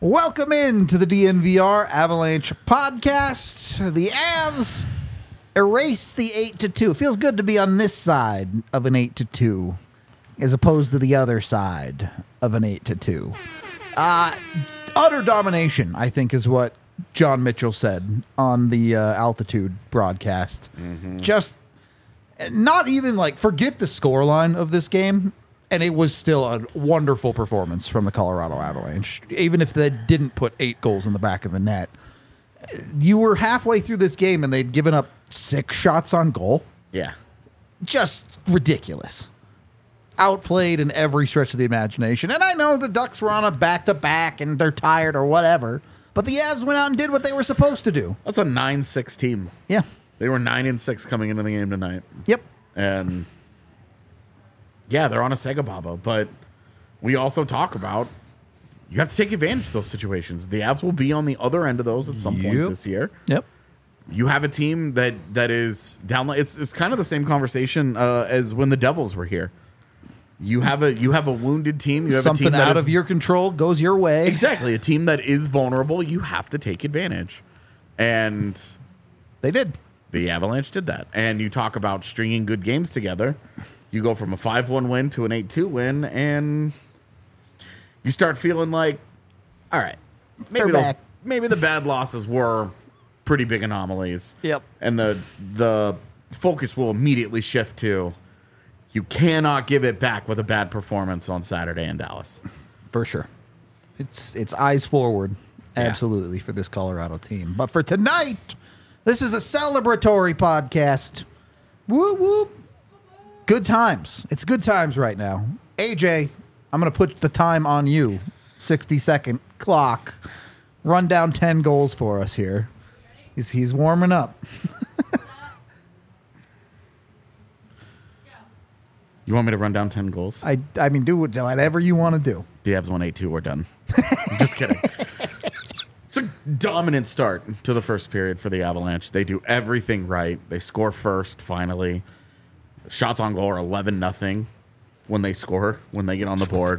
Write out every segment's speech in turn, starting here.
Welcome in to the DNVR Avalanche podcast. The Avs erased the 8-2. It feels good to be on this side of an 8-2 as opposed to the other side of an 8-2. Utter domination, I think, is what John Mitchell said on the altitude broadcast. Just not even forget the scoreline of this game. And it was still a wonderful performance from the Colorado Avalanche. Even if they didn't put 8 goals in the back of the net. You were halfway through this game and they'd given up 6 shots on goal. Yeah. Just ridiculous. Outplayed in every stretch of the imagination. And I know the Ducks were on a back-to-back and they're tired or whatever. But the Avs went out and did what they were supposed to do. That's a 9-6 team. Yeah. They were 9-6 coming into the game tonight. Yep. And yeah, they're on a Sega Baba, but we also talk about you have to take advantage of those situations. The Avs will be on the other end of those at some point this year. Yep. You have a team that is down. It's kind of the same conversation as when the Devils were here. You have a wounded team. You have something a team out of your control goes your way. Exactly, a team that is vulnerable. You have to take advantage, and They did. the Avalanche did that. And you talk about stringing good games together. You go from a 5-1 win to an 8-2 win, and you start feeling like, all right, maybe the bad losses were pretty big anomalies. Yep. And the focus will immediately shift to you cannot give it back with a bad performance on Saturday in Dallas. For sure. It's eyes forward, absolutely, for this Colorado team. But for tonight, this is a celebratory podcast. Whoop, whoop. Good times. It's good times right now. AJ, I'm going to put the time on you. 60-second clock. Run down 10 goals for us here. He's warming up. You want me to run down 10 goals? I mean, do whatever you want to do. The Avs won 8-2. We're done. I'm just kidding. It's a dominant start to the first period for the Avalanche. They do everything right. They score first, finally. Shots on goal are 11-0 when they score, when they get on the board.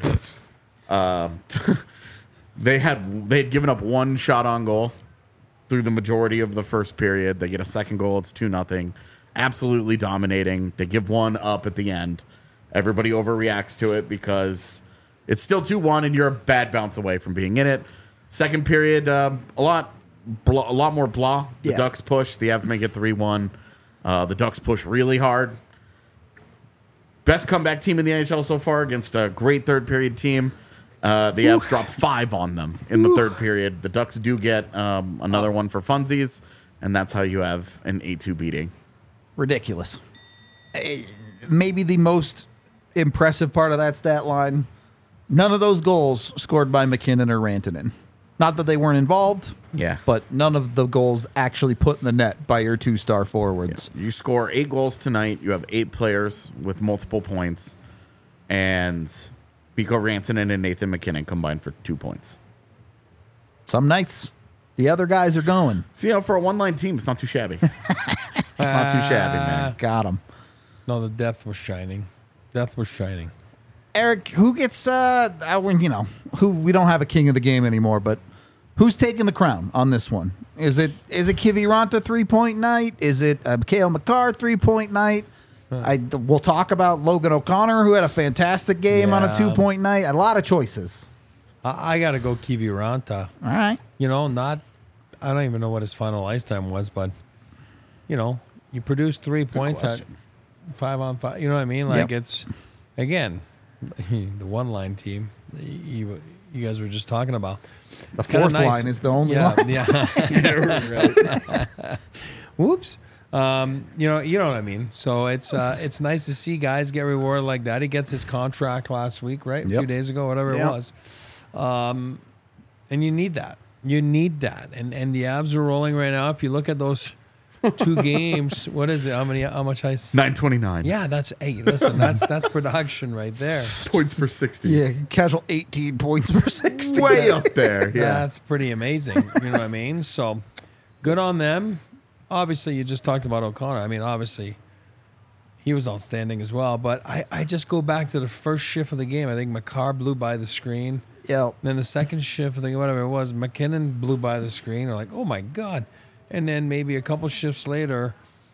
They had given up 1 shot on goal through the majority of the first period. They get a second goal. It's 2-0. Absolutely dominating. They give 1 up at the end. Everybody overreacts to it because it's still 2-1 and you're a bad bounce away from being in it. Second period, a lot more blah. The Ducks push. The Avs make it 3-1. The Ducks push really hard. Best comeback team in the NHL so far against a great third period team. The Avs drop 5 on them in the third period. The Ducks do get another one for funsies, and that's how you have an 8-2 beating. Ridiculous. Maybe the most impressive part of that stat line, none of those goals scored by McKinnon or Rantanen. Not that they weren't involved, but none of the goals actually put in the net by your 2-star forwards. Yeah. You score 8 goals tonight. You have 8 players with multiple points, and Mikko Rantanen and Nathan McKinnon combined for 2 points. Some nights, the other guys are going. See, for a one-line team, it's not too shabby. It's not too shabby, man. Got him. No, the death was shining. Death was shining. Eric, who gets, who we don't have a king of the game anymore, but who's taking the crown on this one? Is it Kiviranta 3-point night? Is it Cale Makar 3-point night? We'll talk about Logan O'Connor, who had a fantastic game on a 2-point night. A lot of choices. I got to go Kiviranta. All right. I don't even know what his final ice time was, but, you produce 3 points at 5-on-5. You know what I mean? It's, again, the one-line team you guys were just talking about. The fourth line is the only line. Yeah. Right. Whoops. You know what I mean? So it's nice to see guys get rewarded like that. He gets his contract last week, right? A few days ago, whatever it was. And you need that. You need that. And the Avs are rolling right now. If you look at those 2 games, what is it? How much ice? 929. Yeah, that's production right there. Points per 60. Yeah, casual 18 points per 60. Way up there. Yeah. That's pretty amazing. You know what I mean? So good on them. Obviously, you just talked about O'Connor. I mean, obviously, he was outstanding as well. But I just go back to the first shift of the game. I think Makar blew by the screen. Yeah. Then the second shift, I think whatever it was, McKinnon blew by the screen. We're like, oh my God. And then maybe a couple shifts later,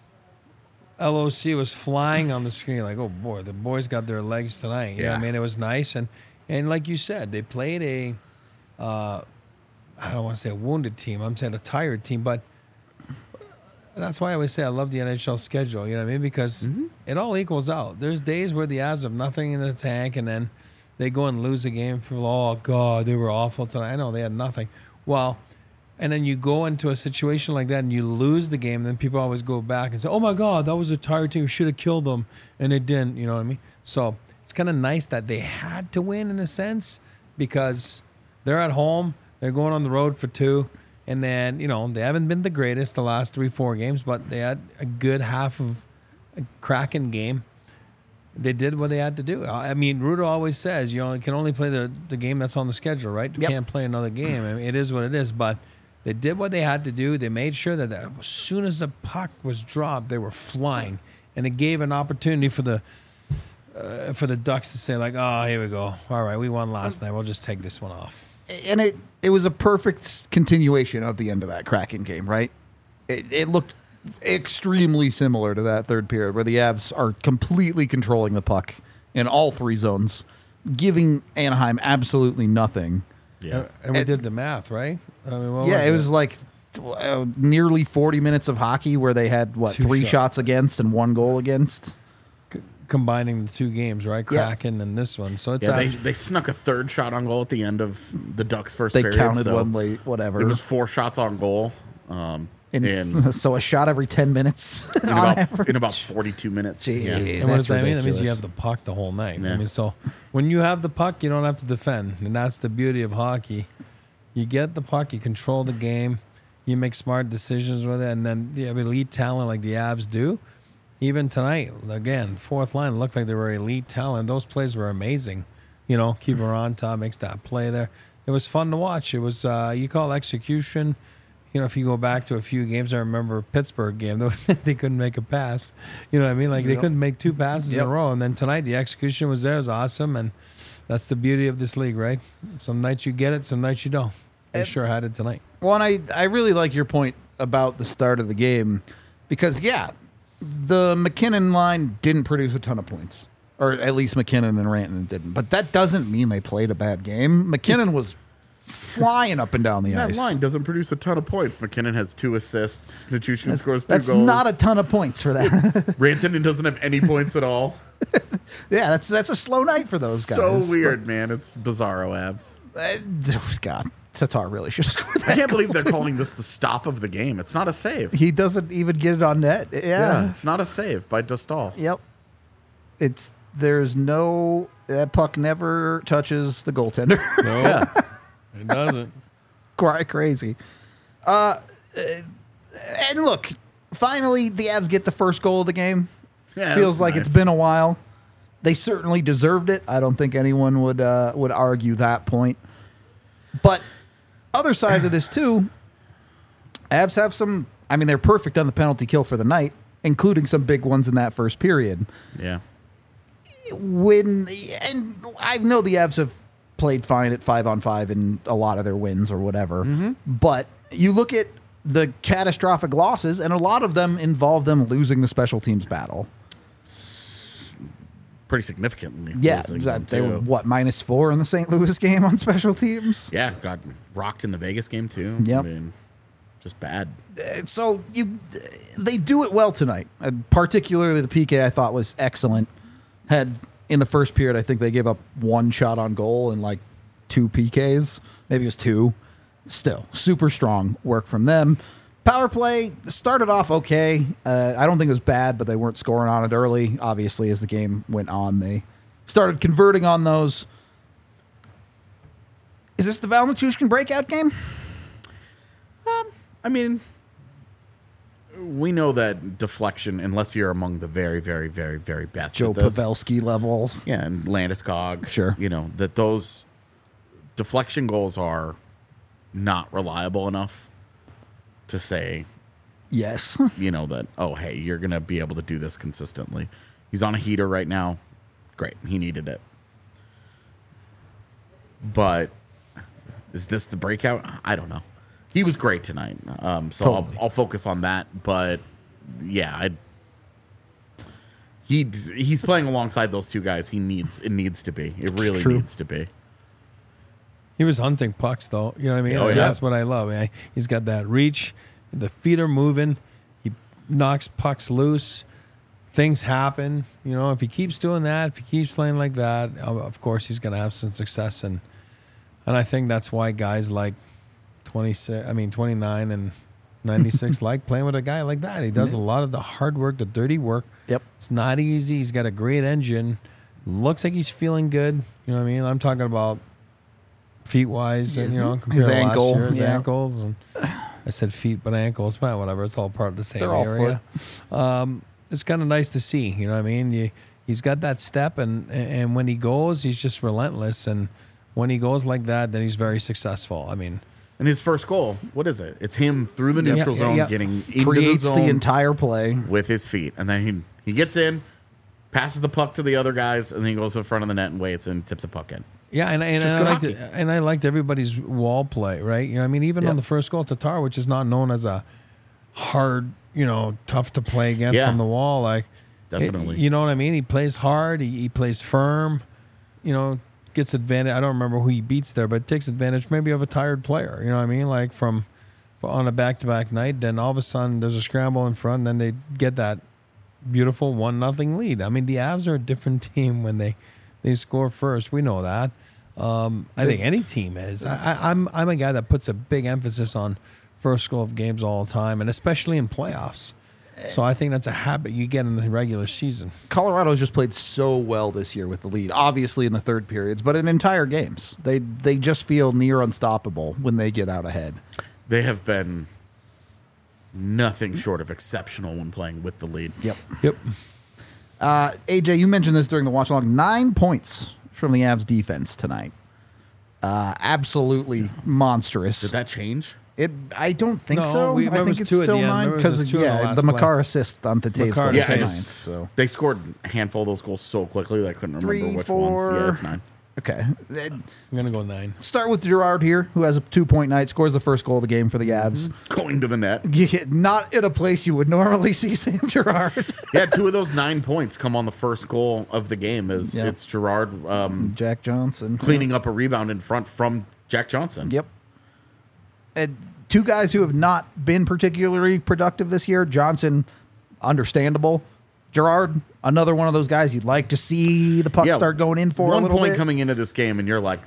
LOC was flying on the screen. Like, oh boy, the boys got their legs tonight. You know what I mean? It was nice. And like you said, they played a, I don't want to say a wounded team. I'm saying a tired team. But that's why I always say I love the NHL schedule. You know what I mean? Because it all equals out. There's days where the Avs have nothing in the tank, and then they go and lose a game. People, oh, God, they were awful tonight. I know they had nothing. Well, and then you go into a situation like that and you lose the game, and then people always go back and say, oh, my God, that was a tired team. We should have killed them, and they didn't. You know what I mean? So it's kind of nice that they had to win in a sense because they're at home. They're going on the road for 2. And then, you know, they haven't been the greatest the last 3-4 games, but they had a good half of a cracking game. They did what they had to do. I mean, Rudo always says, you can only play the game that's on the schedule, right? You can't play another game. I mean, it is what it is. But they did what they had to do. They made sure that as soon as the puck was dropped, they were flying. And it gave an opportunity for the Ducks to say, like, oh, here we go. All right, we won last night. We'll just take this one off. And it was a perfect continuation of the end of that Kraken game, right? It looked extremely similar to that third period where the Avs are completely controlling the puck in all 3 zones, giving Anaheim absolutely nothing. Yeah. And we did the math, right? I mean, it was like nearly 40 minutes of hockey where they had, 3 shots against and 1 goal against? Combining the 2 games, right? Kraken and this one. So it's they snuck a third shot on goal at the end of the Ducks' first period. They counted one late, whatever. It was 4 shots on goal. So a shot every 10 minutes in about 42 minutes. Jeez, yeah. And what does that mean? That means you have the puck the whole night. Yeah. I mean, so when you have the puck, you don't have to defend, and that's the beauty of hockey. You get the puck, you control the game, you make smart decisions with it, and then you have elite talent like the Avs do. Even tonight, again, fourth line looked like they were elite talent. Those plays were amazing. You know, Keeper on top makes that play there. It was fun to watch. It was, you call execution. You know, if you go back to a few games, I remember a Pittsburgh game, they couldn't make a pass. You know what I mean? Like, they couldn't make 2 passes in a row. And then tonight, the execution was there. It was awesome. And that's the beauty of this league, right? Some nights you get it, some nights you don't. They sure had it tonight. Well, and I really like your point about the start of the game because, the McKinnon line didn't produce a ton of points. Or at least McKinnon and Rantanen didn't. But that doesn't mean they played a bad game. McKinnon was flying up and down the ice. That line doesn't produce a ton of points. McKinnon has 2 assists. Nichushkin scores 2 That's goals. not a ton of points for that. Rantanen doesn't have any points at all. Yeah, that's a slow night for those guys. So weird, man. It's bizarro abs. God, Tatar really should have scored that. I can't believe they're calling this the stop of the game. It's not a save. He doesn't even get it on net. Yeah. It's not a save by Dostal. Yep. That puck never touches the goaltender. No, it doesn't. Quite crazy. And look, finally the Avs get the first goal of the game. Yeah, Feels like nice. it's been a while. They certainly deserved it. I don't think anyone would argue that point. But other side of this too, Avs have some. I mean, they're perfect on the penalty kill for the night, including some big ones in that first period. Yeah. And I know the Avs have played fine at 5-on-5 in a lot of their wins or whatever. Mm-hmm. But you look at the catastrophic losses, and a lot of them involve them losing the special teams battle. Pretty significantly. Yeah, losing them, they were too. -4 in the St. Louis game on special teams. Yeah, got rocked in the Vegas game too. Yep. I mean, just bad. So they do it well tonight. Particularly the PK I thought was excellent. Had in the first period, I think they gave up 1 shot on goal and like 2 PKs. Maybe it was 2. Still, super strong work from them. Power play started off okay. I don't think it was bad, but they weren't scoring on it early. Obviously, as the game went on, they started converting on those. Is this the Val Nichushkin breakout game? I mean, we know that deflection, unless you're among the very, very, very, very best. Joe at this, Pavelski level. Yeah, and Landeskog. Sure. You know, that those deflection goals are not reliable enough to say, Yes. you know, that, oh, hey, you're going to be able to do this consistently. He's on a heater right now. Great. He needed it. But Is this the breakout? I don't know. He was great tonight, so Totally. I'll focus on that. But yeah, he's playing alongside those two guys. It needs to be. It really true. needs to be. He was hunting pucks, though. You know what I mean? Oh, Like, yeah. That's what I love. He's got that reach. The feet are moving. He knocks pucks loose. Things happen. You know, if he keeps doing that, if he keeps playing like that, of course he's going to have some success. And I think that's why guys like 29 and 96 like playing with a guy like that. He does a lot of the hard work, the dirty work. Yep. It's not easy. He's got a great engine. Looks like he's feeling good. You know what I mean? I'm talking about feet-wise, and, you know, compared to last ankle, year, his yeah. ankles. And I said feet, but ankles, but whatever. It's all part of the same They're all area. It's kind of nice to see. You know what I mean? He's got that step, and when he goes, he's just relentless. And when he goes like that, then he's very successful. I mean, And his first goal, what is it? It's him through the neutral zone, yeah. getting into Creates the zone the entire play. with his feet, and then he gets in, passes the puck to the other guys, and then he goes in front of the net and waits and tips a puck in. yeah, and just good hockey. I liked everybody's wall play, right? You know, what I mean, even Yep. on the first goal, Tatar, which is not known as a hard, you know, tough to play against Yeah. on the wall, like Definitely. you know what I mean? He plays hard. He plays firm. You know, gets advantage. I don't remember who he beats there, but takes advantage maybe of a tired player. You know what I mean? Like from on a back-to-back night, then all of a sudden there's a scramble in front, and then they get that beautiful 1-0 lead. I mean, the Avs are a different team when they score first. We know that. I think any team is. I'm a guy that puts a big emphasis on first goal of games all the time, and especially in playoffs. So I think that's a habit you get in the regular season. Colorado's just played so well this year with the lead, obviously in the third periods, but in entire games. They just feel near unstoppable when they get out ahead. They have been nothing short of exceptional when playing with the lead. Yep. Yep. AJ, you mentioned this during the watch along. 9 points from the Avs defense tonight. Absolutely monstrous. Did that change? I don't think No, so. we- I there think was it's two at still the end. 9 There was because a two in the last the play. Makar assist on the Taves Makar goal Yeah, was I 9. just- So They scored a handful of those goals so quickly that I couldn't remember 3, which 4. ones. Yeah, it's 9. okay. I'm going to go 9. Start with Girard here, who has a 2-point night, scores the first goal of the game for the Avs. Going to the net. Not in a place you would normally see Sam Girard. Yeah, 2 of those 9 points come on the first goal of the game. Yeah. It's Gerard Jack Johnson cleaning up a rebound in front from Jack Johnson. Yep. And 2 guys who have not been particularly productive this year. Johnson, understandable. Girard, another one of those guys you'd like to see the puck start going in for a one little point bit. coming into this game, and you're like,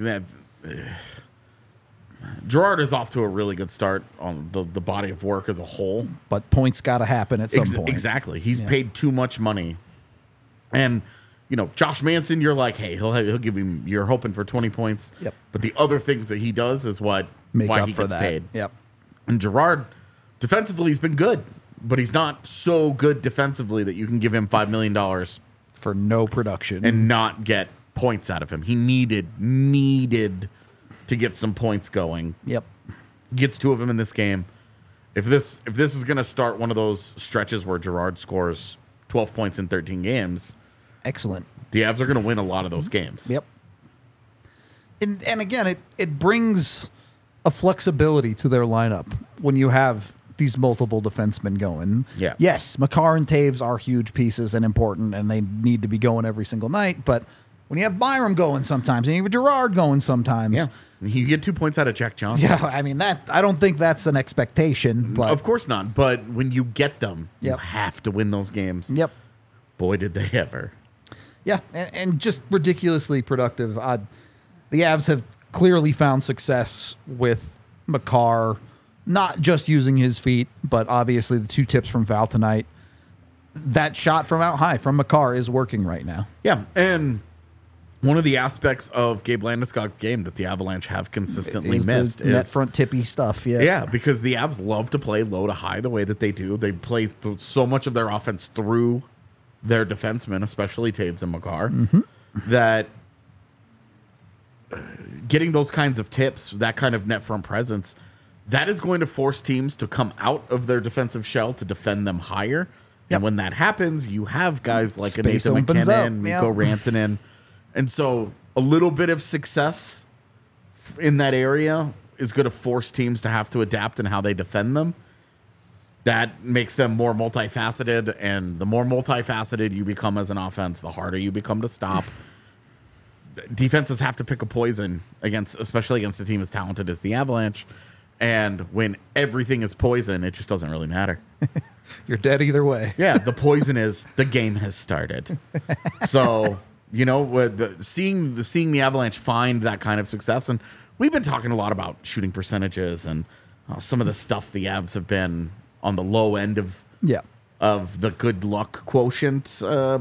Gerard is off to a really good start on the body of work as a whole. But points got to happen at some point. Exactly. He's paid too much money. And, you know, Josh Manson, you're like, hey, he'll give him, you're hoping for 20 points. Yep. But the other things that he does is why Make up he for gets that. paid. Yep. And Gerard, defensively, he's been good, but he's not so good defensively that you can give him $5 million For no production. and not get points out of him. He needed to get some points going. Yep. Gets 2 of them in this game. If this is going to start one of those stretches where Gerard scores 12 points in 13 games, Excellent. the Avs are going to win a lot of those games. Yep. And again, it brings a flexibility to their lineup when you have these multiple defensemen going. Yeah. Yes, Makar and Taves are huge pieces and important, and they need to be going every single night. But when you have Byram going sometimes, and you have Girard going sometimes, Yeah. You get 2 points out of Jack Johnson. yeah. I mean I don't think that's an expectation. But Of course not. But when you get them, you Yep. have to win those games. Yep. Boy, did they ever. Yeah, and just ridiculously productive. The Avs have clearly found success with Makar, not just using his feet, but obviously the 2 tips from Val tonight. That shot from out high from Makar is working right now. Yeah. And one of the aspects of Gabe Landeskog's game that the Avalanche have consistently Is missed the net is front tippy stuff. Yeah. Yeah, because the Avs love to play low to high the way that they do. They play so much of their offense through their defensemen, especially Taves and Makar, that getting those kinds of tips, that kind of net front presence, that is going to force teams to come out of their defensive shell to defend them higher. Yep. And when that happens, you have guys like Space Nathan opens up, McKinnon, Mikko yeah. Rantanen. And so a little bit of success in that area is going to force teams to have to adapt in how they defend them. That makes them more multifaceted, and the more multifaceted you become as an offense, the harder you become to stop. Defenses have to pick a poison especially against a team as talented as the Avalanche. And when everything is poison, it just doesn't really matter. You're dead either way. Yeah, the poison is the game has started. So, seeing the Avalanche find that kind of success, and we've been talking a lot about shooting percentages and some of the stuff the Avs have been on the low end of the good luck quotient.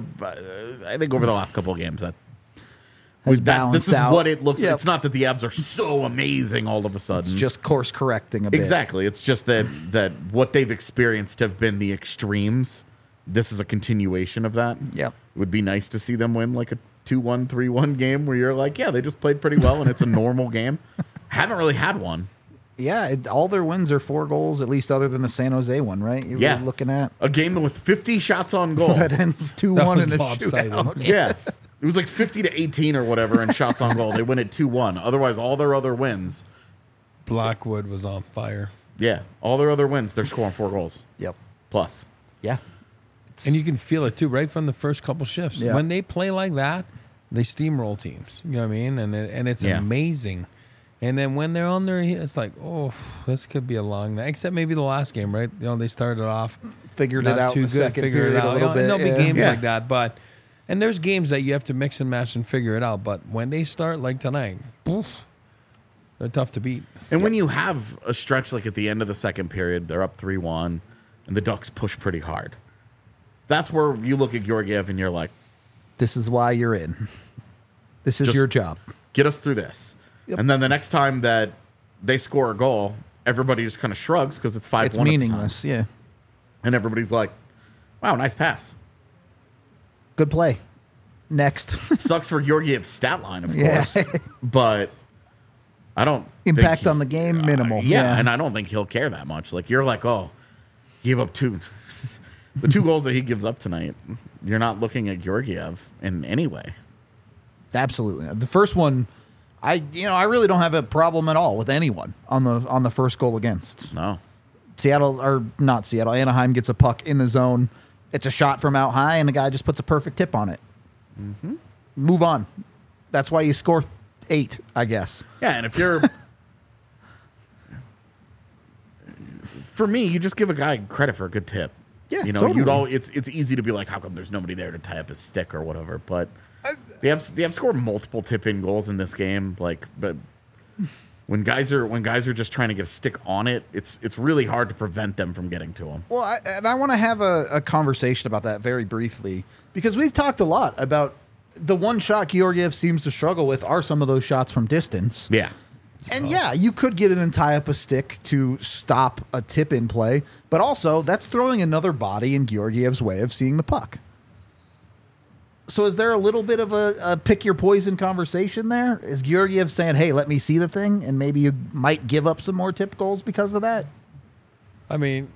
I think over the last couple of games this is out. what it looks like. It's not that the Avs are so amazing all of a sudden. It's just course correcting a bit. Exactly. It's just that what they've experienced have been the extremes. This is a continuation of that. Yeah. It would be nice to see them win like a 2-1, 3-1 game where you're like, yeah, they just played pretty well and it's a normal game. Haven't really had one. Yeah, all their wins are 4 goals, at least other than the San Jose one, right? You were looking at a game with 50 shots on goal. that ends 2-1 in a lopsided. shootout. Yeah. It was like 50-18 or whatever in shots on goal. They win at 2-1. Otherwise, all their other wins. Blackwood was on fire. Yeah. All their other wins, they're scoring 4 goals. Yep. Plus. Yeah. And you can feel it too, right from the first couple shifts. Yeah. When they play like that, they steamroll teams. You know what I mean? And it's amazing. And then when they're on their, it's like, oh, this could be a long night. Except maybe the last game, right? They started off Figured it out too in the good. second Figured period it out. a little bit. There'll be games Yeah. like that, and there's games that you have to mix and match and figure it out. But when they start like tonight, poof, they're tough to beat. And when you have a stretch like at the end of the second period, they're up 3-1, and the Ducks push pretty hard. That's where you look at Georgiev and you're like, This is why you're in. This is Just- your job. get us through this. Yep. And then the next time that they score a goal, everybody just kind of shrugs because it's 5-1 It's at the time. meaningless. Yeah. And everybody's like, wow, nice pass. Good play. Next. Sucks for Georgiev's stat line, of Yeah. course. But I don't Impact think on the game, minimal. yeah, and I don't think he'll care that much. Like, you're like, oh, gave up 2. The 2 goals that he gives up tonight, you're not looking at Georgiev in any way. Absolutely. The first one, I really don't have a problem at all with anyone on the first goal against. No. Anaheim gets a puck in the zone. It's a shot from out high, and the guy just puts a perfect tip on it. Mm-hmm. Move on. That's why you score 8, I guess. Yeah, and if you're... For me, you just give a guy credit for a good tip. Yeah, totally. It's easy to be like, how come there's nobody there to tie up his stick or whatever? But they have scored multiple tip-in goals in this game. But when guys are just trying to get a stick on it, it's really hard to prevent them from getting to them. Well, I want to have a conversation about that very briefly, because we've talked a lot about the one shot Georgiev seems to struggle with are some of those shots from distance. Yeah. And yeah, you could get in and tie up a stick to stop a tip-in play, but also that's throwing another body in Georgiev's way of seeing the puck. So is there a little bit of a pick your poison conversation there? Is Georgiev saying, hey, let me see the thing, and maybe you might give up some more tip goals because of that? I mean,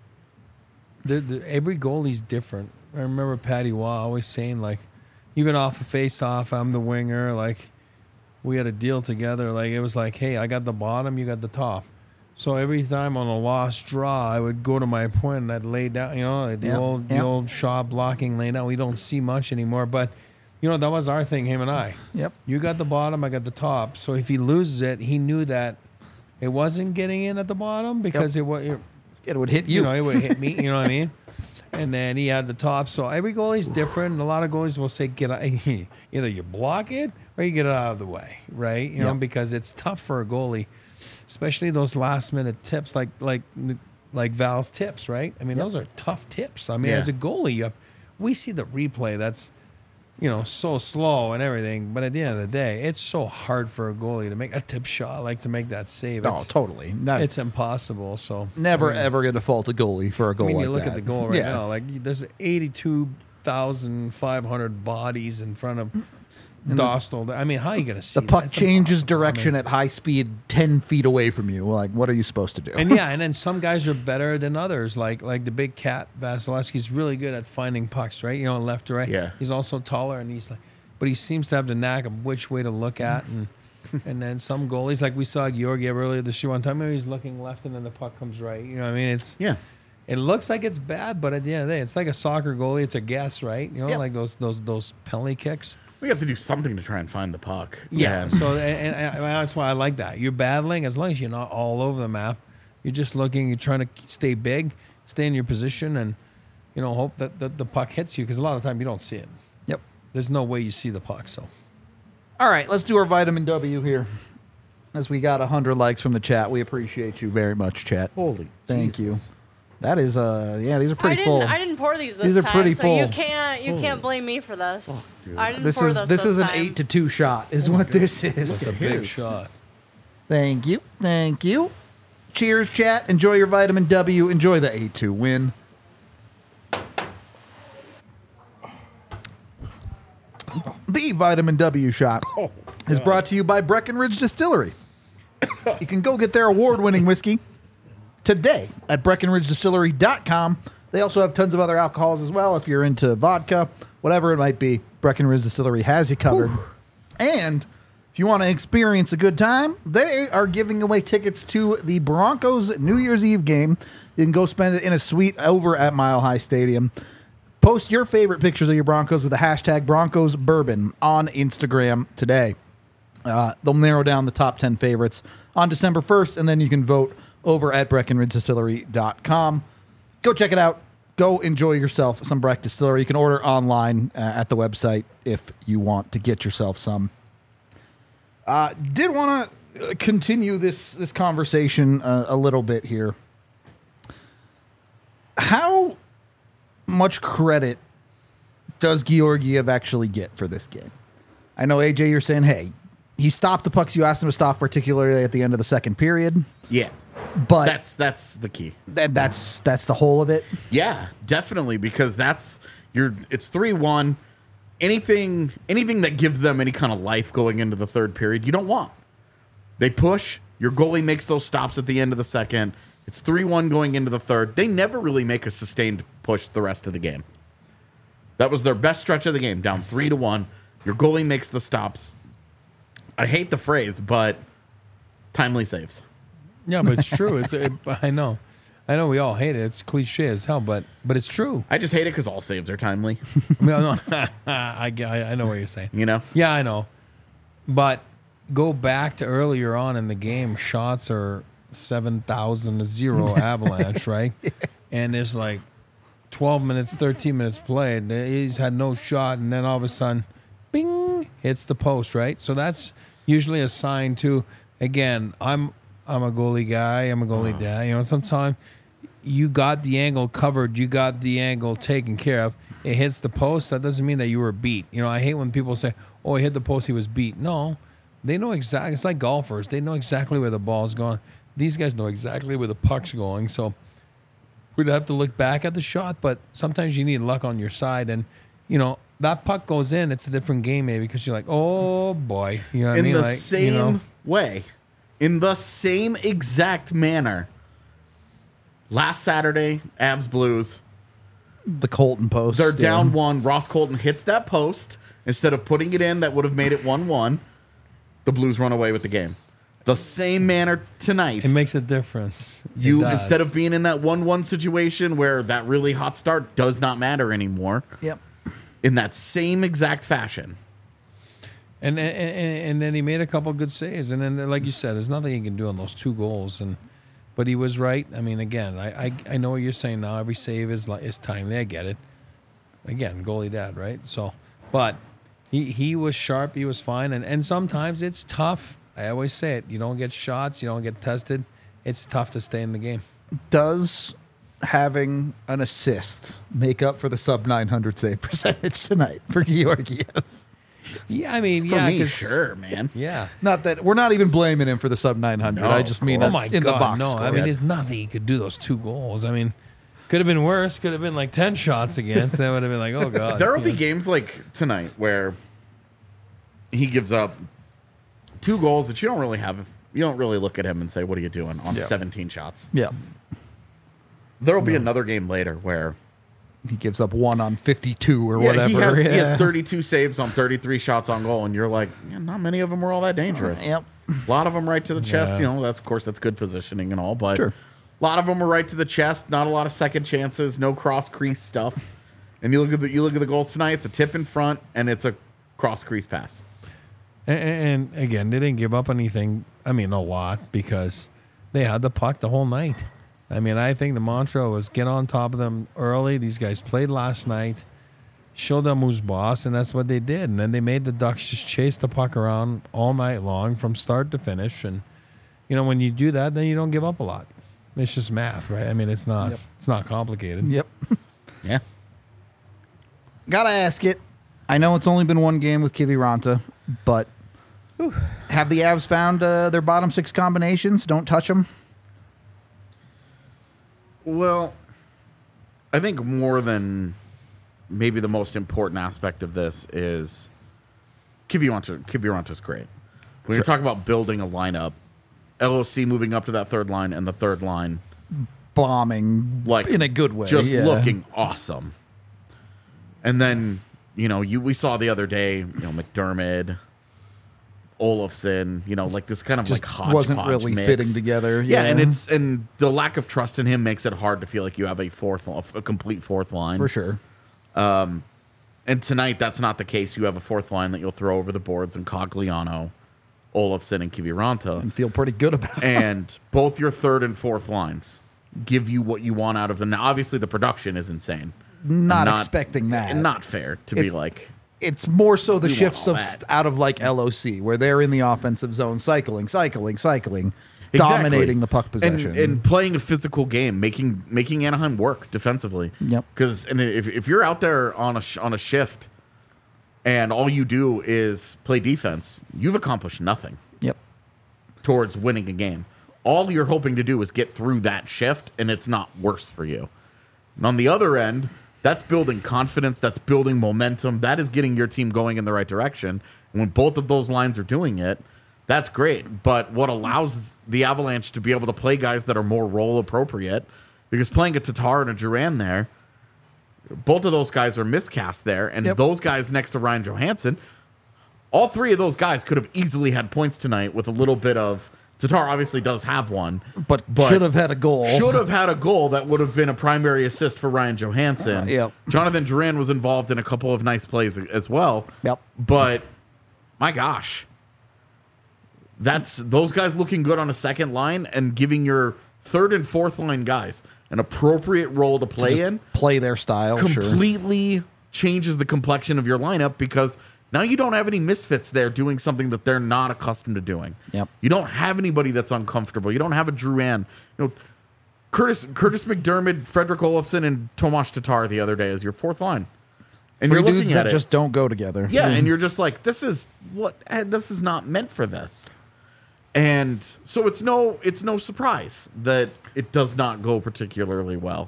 every goalie's different. I remember Patty Waugh always saying, like, even off a face-off, I'm the winger, like, we had a deal together. Like, it was like, hey, I got the bottom, you got the top. So every time on a lost draw, I would go to my point and I'd lay down, the old shot blocking lay down. We don't see much anymore, but that was our thing, him and I. Yep. You got the bottom, I got the top. So if he loses it, he knew that it wasn't getting in at the bottom because it would hit you. It would hit me. You know what I mean? And then he had the top. So every goalie's different. And a lot of goalies will say, either you block it or you get it out of the way, right? You know, because it's tough for a goalie, especially those last minute tips, like Val's tips, right? I mean, those are tough tips. I mean, as a goalie, we see the replay. That's so slow and everything. But at the end of the day, it's so hard for a goalie to make a tip shot, like to make that save. Oh, totally. It's impossible. So never ever going to fault a goalie for a goal. I mean, like you look that. at the goal right now. Like there's 82,500 bodies in front of Dostal. I mean, how are you going to see the puck that? changes direction at high speed 10 feet away from you. Like, what are you supposed to do? And then some guys are better than others. Like the big cat Vasilevsky's really good at finding pucks, right? Left to right. Yeah. He's also taller, and but he seems to have the knack of which way to look at. And And then some goalies, like we saw Georgiev earlier this year one time, maybe he's looking left and then the puck comes right. You know what I mean? It looks like it's bad, but at the end of the day, it's like a soccer goalie. It's a guess, right? You know, like those penalty kicks. We have to do something to try and find the puck. Yeah. So and that's why I like that. You're battling as long as you're not all over the map. You're just looking. You're trying to stay big, stay in your position, and hope that the puck hits you because a lot of time you don't see it. Yep. There's no way you see the puck. So. All right, let's do our vitamin W here. As we got 100 likes from the chat, we appreciate you very much, chat. Holy, thank Jesus. you. That is these are pretty full. I didn't pour these These are time, pretty so full. you can't blame me for this. I didn't This pour is this this is an time. 8-2 shot, is what this is. It's a big shot. Thank you. Cheers, chat. Enjoy your vitamin W. Enjoy the 8-2 win. The vitamin W shot is brought to you by Breckenridge Distillery. You can go get their award-winning whiskey today at BreckenridgeDistillery.com. They also have tons of other alcohols as well. If you're into vodka, whatever it might be, Breckenridge Distillery has you covered. And if you want to experience a good time, they are giving away tickets to the Broncos New Year's Eve game. You can go spend it in a suite over at Mile High Stadium. Post your favorite pictures of your Broncos with the hashtag Broncos Bourbon on Instagram today. They'll narrow down the top 10 favorites on December 1st, and then you can vote over at BreckenridgeDistillery.com. Go check it out. Go enjoy yourself some Breck Distillery. You can order online at the website if you want to get yourself some. Did want to continue this conversation a little bit here. How much credit does Georgiev actually get for this game? I know, AJ, you're saying, hey, he stopped the pucks you asked him to stop, particularly at the end of the second period. Yeah. But that's the key. That's the whole of it. Yeah, definitely, because it's 3-1. Anything that gives them any kind of life going into the third period, you don't want. They push, your goalie makes those stops at the end of the second. It's 3-1 going into the third. They never really make a sustained push the rest of the game. That was their best stretch of the game, down 3-1. Your goalie makes the stops. I hate the phrase, but timely saves. Yeah, but it's true. I know we all hate it. It's cliche as hell, but it's true. I just hate it because all saves are timely. No, I know what you're saying. You know? Yeah, I know. But go back to earlier on in the game. Shots are 7,000-0 Avalanche, right? And there's like 12 minutes, 13 minutes played. He's had no shot, and then all of a sudden, bing, hits the post, right? So that's usually a sign to, again, I'm a goalie guy. I'm a goalie dad. Sometimes you got the angle covered. You got the angle taken care of. It hits the post. That doesn't mean that you were beat. I hate when people say, oh, he hit the post, he was beat. No, they know exactly. It's like golfers. They know exactly where the ball's going. These guys know exactly where the puck's going. So we'd have to look back at the shot, but sometimes you need luck on your side. And, that puck goes in, it's a different game maybe because you're like, oh, boy. You know what I mean? In the same way. In the same exact manner. Last Saturday, Avs Blues. The Colton post. They're down 1. Ross Colton hits that post. Instead of putting it in, that would have made it 1-1. The Blues run away with the game. The same manner tonight. It makes a difference. Instead of being in that 1-1 situation where that really hot start does not matter anymore. Yep. In that same exact fashion. And then he made a couple good saves. And then, like you said, there's nothing he can do on those 2 goals. But he was right. I mean, again, I know what you're saying now. Every save is timely. I get it. Again, goalie dad, right? So, but he was sharp. He was fine. And sometimes it's tough. I always say it. You don't get shots. You don't get tested. It's tough to stay in the game. Does having an assist make up for the sub-900 save percentage tonight for Georgiev? Yeah, I mean, For me, sure, man. Yeah. Not that we're not even blaming him for the sub-900. No, I just mean Oh that's my in God, the box. no. score. I mean, there's nothing he could do those 2 goals. I mean, could have been worse. Could have been like 10 shots against. That would have been like, oh God. There will be games like tonight where he gives up 2 goals that you don't really have. You don't really look at him and say, what are you doing on 17 shots? Yeah. There will be another game later where He gives up 1 on 52 or Yeah, whatever. he has 32 saves on 33 shots on goal, and you're like, yeah, not many of them were all that dangerous. Yep. A lot of them right to the chest. You know, that's of course that's good positioning and all, but Sure. a lot of them were right to the chest. Not a lot of second chances. No cross crease stuff. And you look at the goals tonight. It's a tip in front, and it's a cross crease pass. And again, they didn't give up anything. I mean, a lot, because they had the puck the whole night. I mean, I think the mantra was get on top of them early. These guys played last night, show them who's boss, and that's what they did. And then they made the Ducks just chase the puck around all night long from start to finish. And, you know, when you do that, then you don't give up a lot. It's just math, right? I mean, it's not complicated. Yep. Yeah. Gotta ask it. I know it's only been one game with Kiviranta, but have the Avs found their bottom 6 combinations? Don't touch them. Well, I think more than maybe the most important aspect of this is Kiviranta's great. When you're talking about building a lineup, LOC moving up to that third line and the third line Bombing, like in a good way. just yeah. looking awesome. And then, you know, we saw the other day, you know, McDermott, Olofsson, you know, like this kind of Just like hodgepodge wasn't really mix. fitting together. Yeah, and the lack of trust in him makes it hard to feel like you have a complete fourth line. For sure. And tonight, that's not the case. You have a fourth line that you'll throw over the boards in Cogliano, Olofsson, and Kiviranta. And feel pretty good about it. And both your third and fourth lines give you what you want out of them. Now, obviously, the production is insane. Not expecting that. And not fair to be like... It's more so the We want shifts all of that. out of like LOC, where they're in the offensive zone, cycling, dominating the puck possession. and playing a physical game, making Anaheim work defensively. Yep. Because if you're out there on a shift and all you do is play defense, you've accomplished nothing Yep. towards winning a game. All you're hoping to do is get through that shift, and it's not worse for you. And on the other end, that's building confidence. That's building momentum. That is getting your team going in the right direction. And when both of those lines are doing it, that's great. But what allows the Avalanche to be able to play guys that are more role appropriate, because playing a Tatar and a Duran there, both of those guys are miscast there. And those guys next to Ryan Johansson, all three of those guys could have easily had points tonight with a little bit of... Tatar obviously does have one. But should have had a goal. Should have had a goal that would have been a primary assist for Ryan Johansson. Yep. Jonathan Duran was involved in a couple of nice plays as well. Yep. But, my gosh. That's those guys looking good on a second line and giving your third and fourth line guys an appropriate role to play in. Play their style, sure. Completely changes the complexion of your lineup, because now you don't have any misfits there doing something that they're not accustomed to doing. Yep. You don't have anybody that's uncomfortable. You don't have a Drouin. You know, Curtis McDermott, Frederick Olofsson, and Tomas Tatar the other day as your fourth line. And Three you're looking dudes at that it. just don't go together. Yeah, and you're just like, this is not meant for this. And so it's no surprise that it does not go particularly well.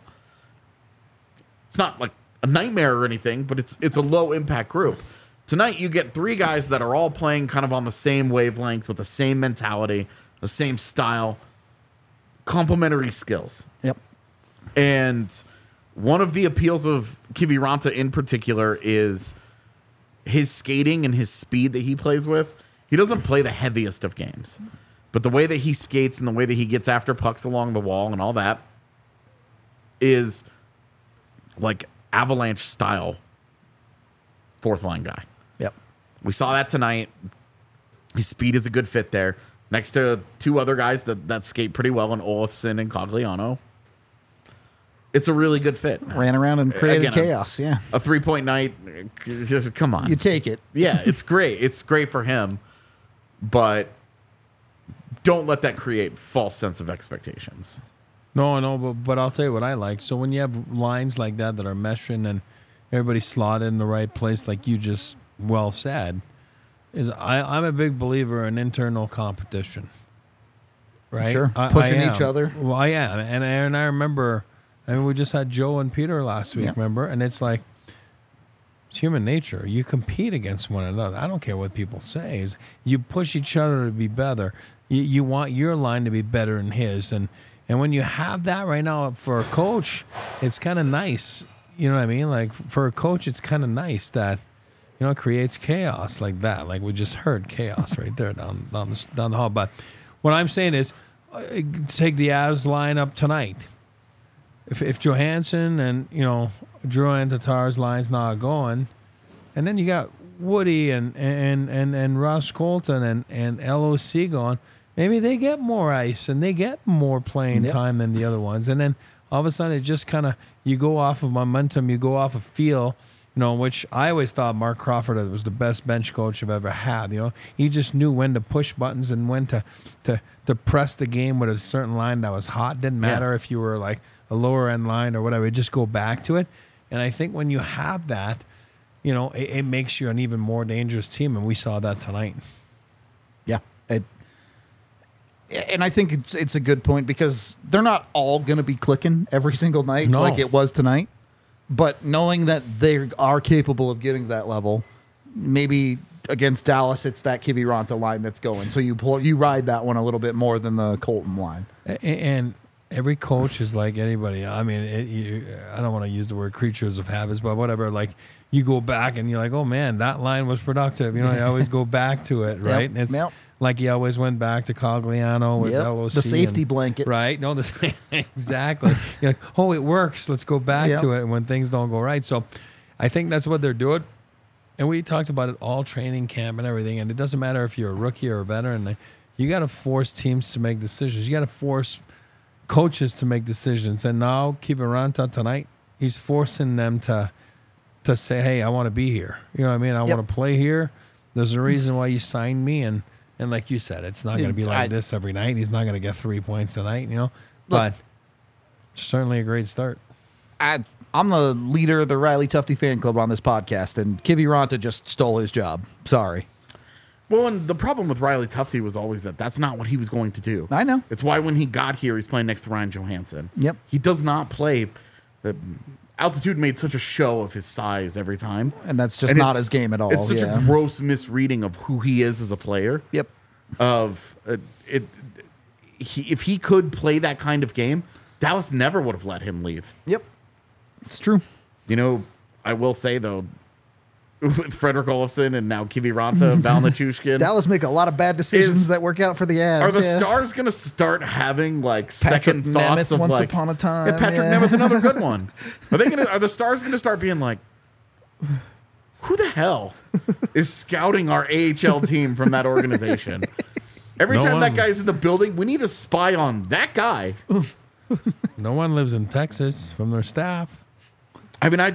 It's not like a nightmare or anything, but it's a low impact group. Tonight you get three guys that are all playing kind of on the same wavelength with the same mentality, the same style, complementary skills. Yep. And one of the appeals of Kiviranta in particular is his skating and his speed that he plays with. He doesn't play the heaviest of games, but the way that he skates and the way that he gets after pucks along the wall and all that is like Avalanche style fourth line guy. Yep. We saw that tonight. His speed is a good fit there. Next to two other guys that skate pretty well in Olofsson and Cogliano. It's a really good fit. Ran around and created Again, chaos. Yeah. A 3-point night. Just come on. You take it. Yeah, it's great. It's great for him. But don't let that create false sense of expectations. No, but I'll tell you what I like. So when you have lines like that are meshing and everybody's slotted in the right place, like you just well said, is I'm a big believer in internal competition. Right? Sure. I Pushing am. each other. Well, I am. And I remember, we just had Joe and Peter last week, remember? And it's like, it's human nature. You compete against one another. I don't care what people say. You push each other to be better. You want your line to be better than his. And when you have that right now for a coach, it's kind of nice you know what I mean? Like for a coach, it's kind of nice that, you know, it creates chaos like that. Like we just heard chaos right there down the hall. But what I'm saying is, take the Avs lineup tonight. If Johansson and, you know, Drouin Tatar's line's not going, and then you got Woody and Ross Colton and LOC going, maybe they get more ice and they get more playing time than the other ones. And then all of a sudden it just kind of, you go off of momentum, you go off of feel, you know, which I always thought Mark Crawford was the best bench coach I've ever had. You know, he just knew when to push buttons and when to press the game with a certain line that was hot. Didn't matter if you were like a lower end line or whatever, just go back to it. And I think when you have that, you know, it makes you an even more dangerous team, and we saw that tonight. Yeah. And I think it's a good point because they're not all going to be clicking every single night like it was tonight. But knowing that they are capable of getting that level, maybe against Dallas, it's that Kiviranta line that's going. So you ride that one a little bit more than the Colton line. And every coach is like anybody. I mean, I don't want to use the word creatures of habits, but whatever. Like you go back and you're like, oh man, that line was productive. You know, you always go back to it, right? And it's like you always went back to Cogliano with LOC. The safety blanket. Right? No, exactly. You're like, oh, it works. Let's go back to it when things don't go right. So I think that's what they're doing. And we talked about it all training camp and everything. And it doesn't matter if you're a rookie or a veteran. You got to force teams to make decisions. You got to force coaches to make decisions. And now Kiviranta tonight, he's forcing them to say, hey, I want to be here. You know what I mean? I want to play here. There's a reason why you signed me. And like you said, it's not going to be like this every night. He's not going to get 3 points tonight, you know. But certainly a great start. I'm the leader of the Riley Tufte fan club on this podcast, and Kiviranta just stole his job. Sorry. Well, and the problem with Riley Tufte was always that's not what he was going to do. I know. It's why when he got here, he's playing next to Ryan Johansson. Yep. He does not play. Altitude made such a show of his size every time. And that's just not his game at all. It's such a gross misreading of who he is as a player. Yep. If he could play that kind of game, Dallas never would have let him leave. Yep. It's true. You know, I will say, though, with Frederick Olofsson and now Kiviranta, Val Nichushkin. Dallas make a lot that decisions that work out for the Avs. Are the Stars going to start having like second thoughts of once like upon a time? Yeah, Patrick Nemeth, another good one. Are the Stars going to start being like, who the hell is scouting our AHL team from that organization? Every time that guy's in the building, we need to spy on that guy. No one lives in Texas from their staff. I mean,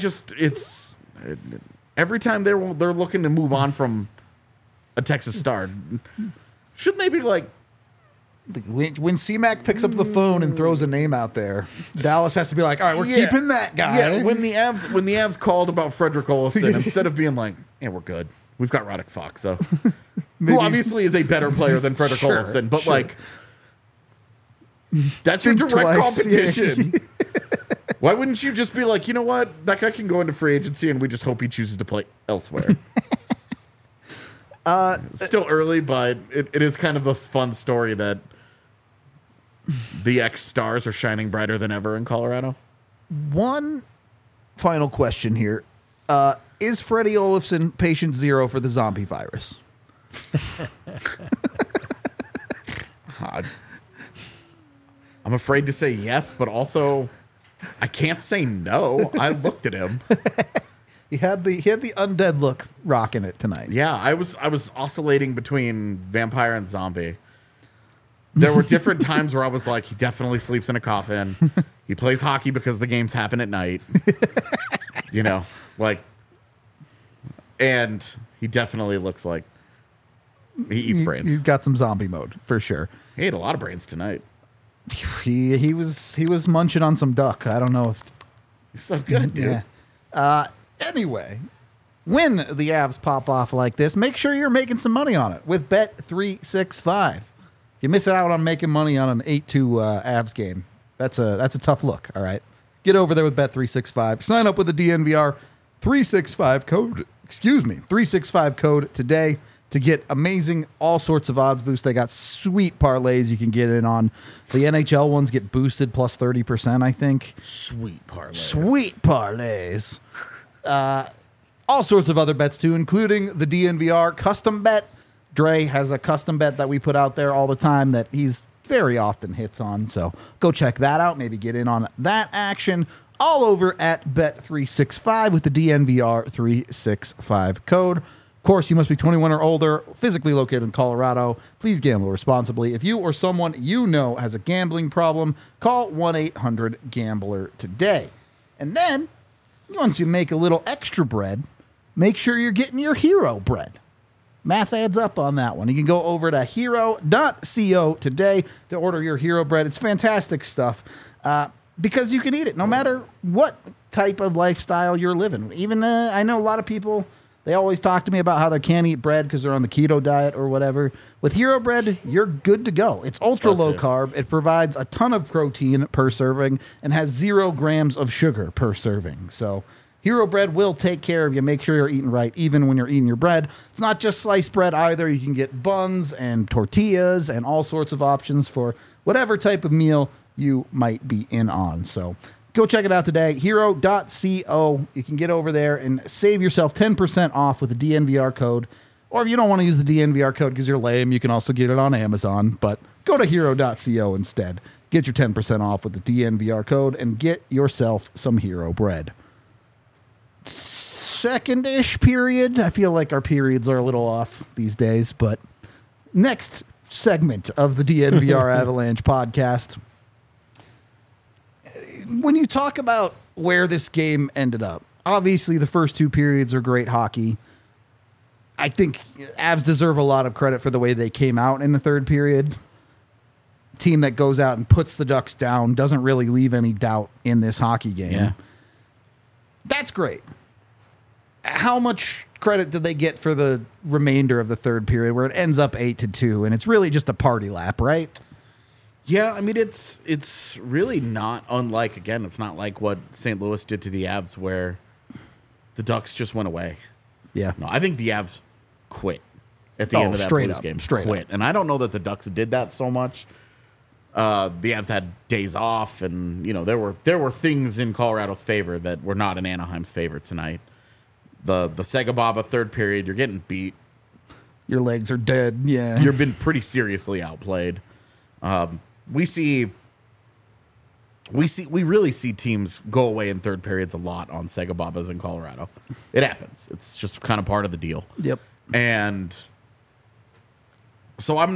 every time they're looking to move on from a Texas Star, shouldn't they be like, when C-Mac picks up the phone and throws a name out there, Dallas has to be like, all right, we're keeping that guy. Yeah, when the Avs called about Frederick Olofsson, instead of being like, yeah, we're good. We've got Radek Fox, so who obviously is a better player than Frederick Olofsson, but like that's your direct competition. Why wouldn't you just be like, you know what? That guy can go into free agency and we just hope he chooses to play elsewhere. It's still early, but it is kind of a fun story that the ex-Stars are shining brighter than ever in Colorado. One final question here. Is Freddie Olofsson patient zero for the zombie virus? I'm afraid to say yes, but also I can't say no. I looked at him. He had the undead look rocking it tonight. Yeah, I was oscillating between vampire and zombie. There were different times where I was like, he definitely sleeps in a coffin. He plays hockey because the games happen at night. You know, like, and he definitely looks like he eats brains. He's got some zombie mode for sure. He ate a lot of brains tonight. He was munching on some duck. I don't know if he's so good, dude. Yeah. Anyway, when the Avs pop off like this, make sure you're making some money on it with Bet365. You miss out on making money on an 8-2 Avs game. That's a tough look. All right, get over there with Bet365. Sign up with the DNVR 365 code. 365 code today. to get amazing all sorts of odds boosts. They got sweet parlays you can get in on. The NHL ones get boosted plus 30%, I think. Sweet parlays. Sweet parlays. All sorts of other bets too, including the DNVR custom bet. Dre has a custom bet that we put out there all the time that he's very often hits on. So go check that out. Maybe get in on that action. All over at Bet365 with the DNVR 365 code. Of course, you must be 21 or older, physically located in Colorado. Please gamble responsibly. If you or someone you know has a gambling problem, call 1-800-GAMBLER today. And then, once you make a little extra bread, make sure you're getting your hero bread. Math adds up on that one. You can go over to hero.co today to order your hero bread. It's fantastic stuff because you can eat it no matter what type of lifestyle you're living. Even I know a lot of people, they always talk to me about how they can't eat bread because they're on the keto diet or whatever. With hero bread, you're good to go. It's ultra low carb. It provides a ton of protein per serving and has 0 grams of sugar per serving. So Hero Bread will take care of you. Make sure you're eating right, even when you're eating your bread. It's not just sliced bread either. You can get buns and tortillas and all sorts of options for whatever type of meal you might be in on. So go check it out today. Hero.co. You can get over there and save yourself 10% off with the DNVR code. Or if you don't want to use the DNVR code because you're lame, you can also get it on Amazon. But go to hero.co instead. Get your 10% off with the DNVR code and get yourself some Hero Bread. Second-ish period. I feel like our periods are a little off these days, but next segment of the DNVR Avalanche podcast. When you talk about where this game ended up, obviously the first 2 periods are great hockey. I think Avs deserve a lot of credit for the way they came out in the third period. Team that goes out and puts the Ducks down, doesn't really leave any doubt in this hockey game. Yeah. That's great. How much credit did they get for the remainder of the third period where it ends up 8-2 and it's really just a party lap, right? Yeah, I mean, it's really not unlike, again, it's not like what St. Louis did to the Avs where the Ducks just went away. Yeah. No, I think the Avs quit at the end of that Blues game. Quit. And I don't know that the Ducks did that so much. The Avs had days off, and there were things in Colorado's favor that were not in Anaheim's favor tonight. The Segababa third period, you're getting beat. Your legs are dead. Yeah, You've been pretty seriously outplayed. We really see teams go away in third periods a lot on Segababas in Colorado. It happens. It's just kind of part of the deal. Yep. And so the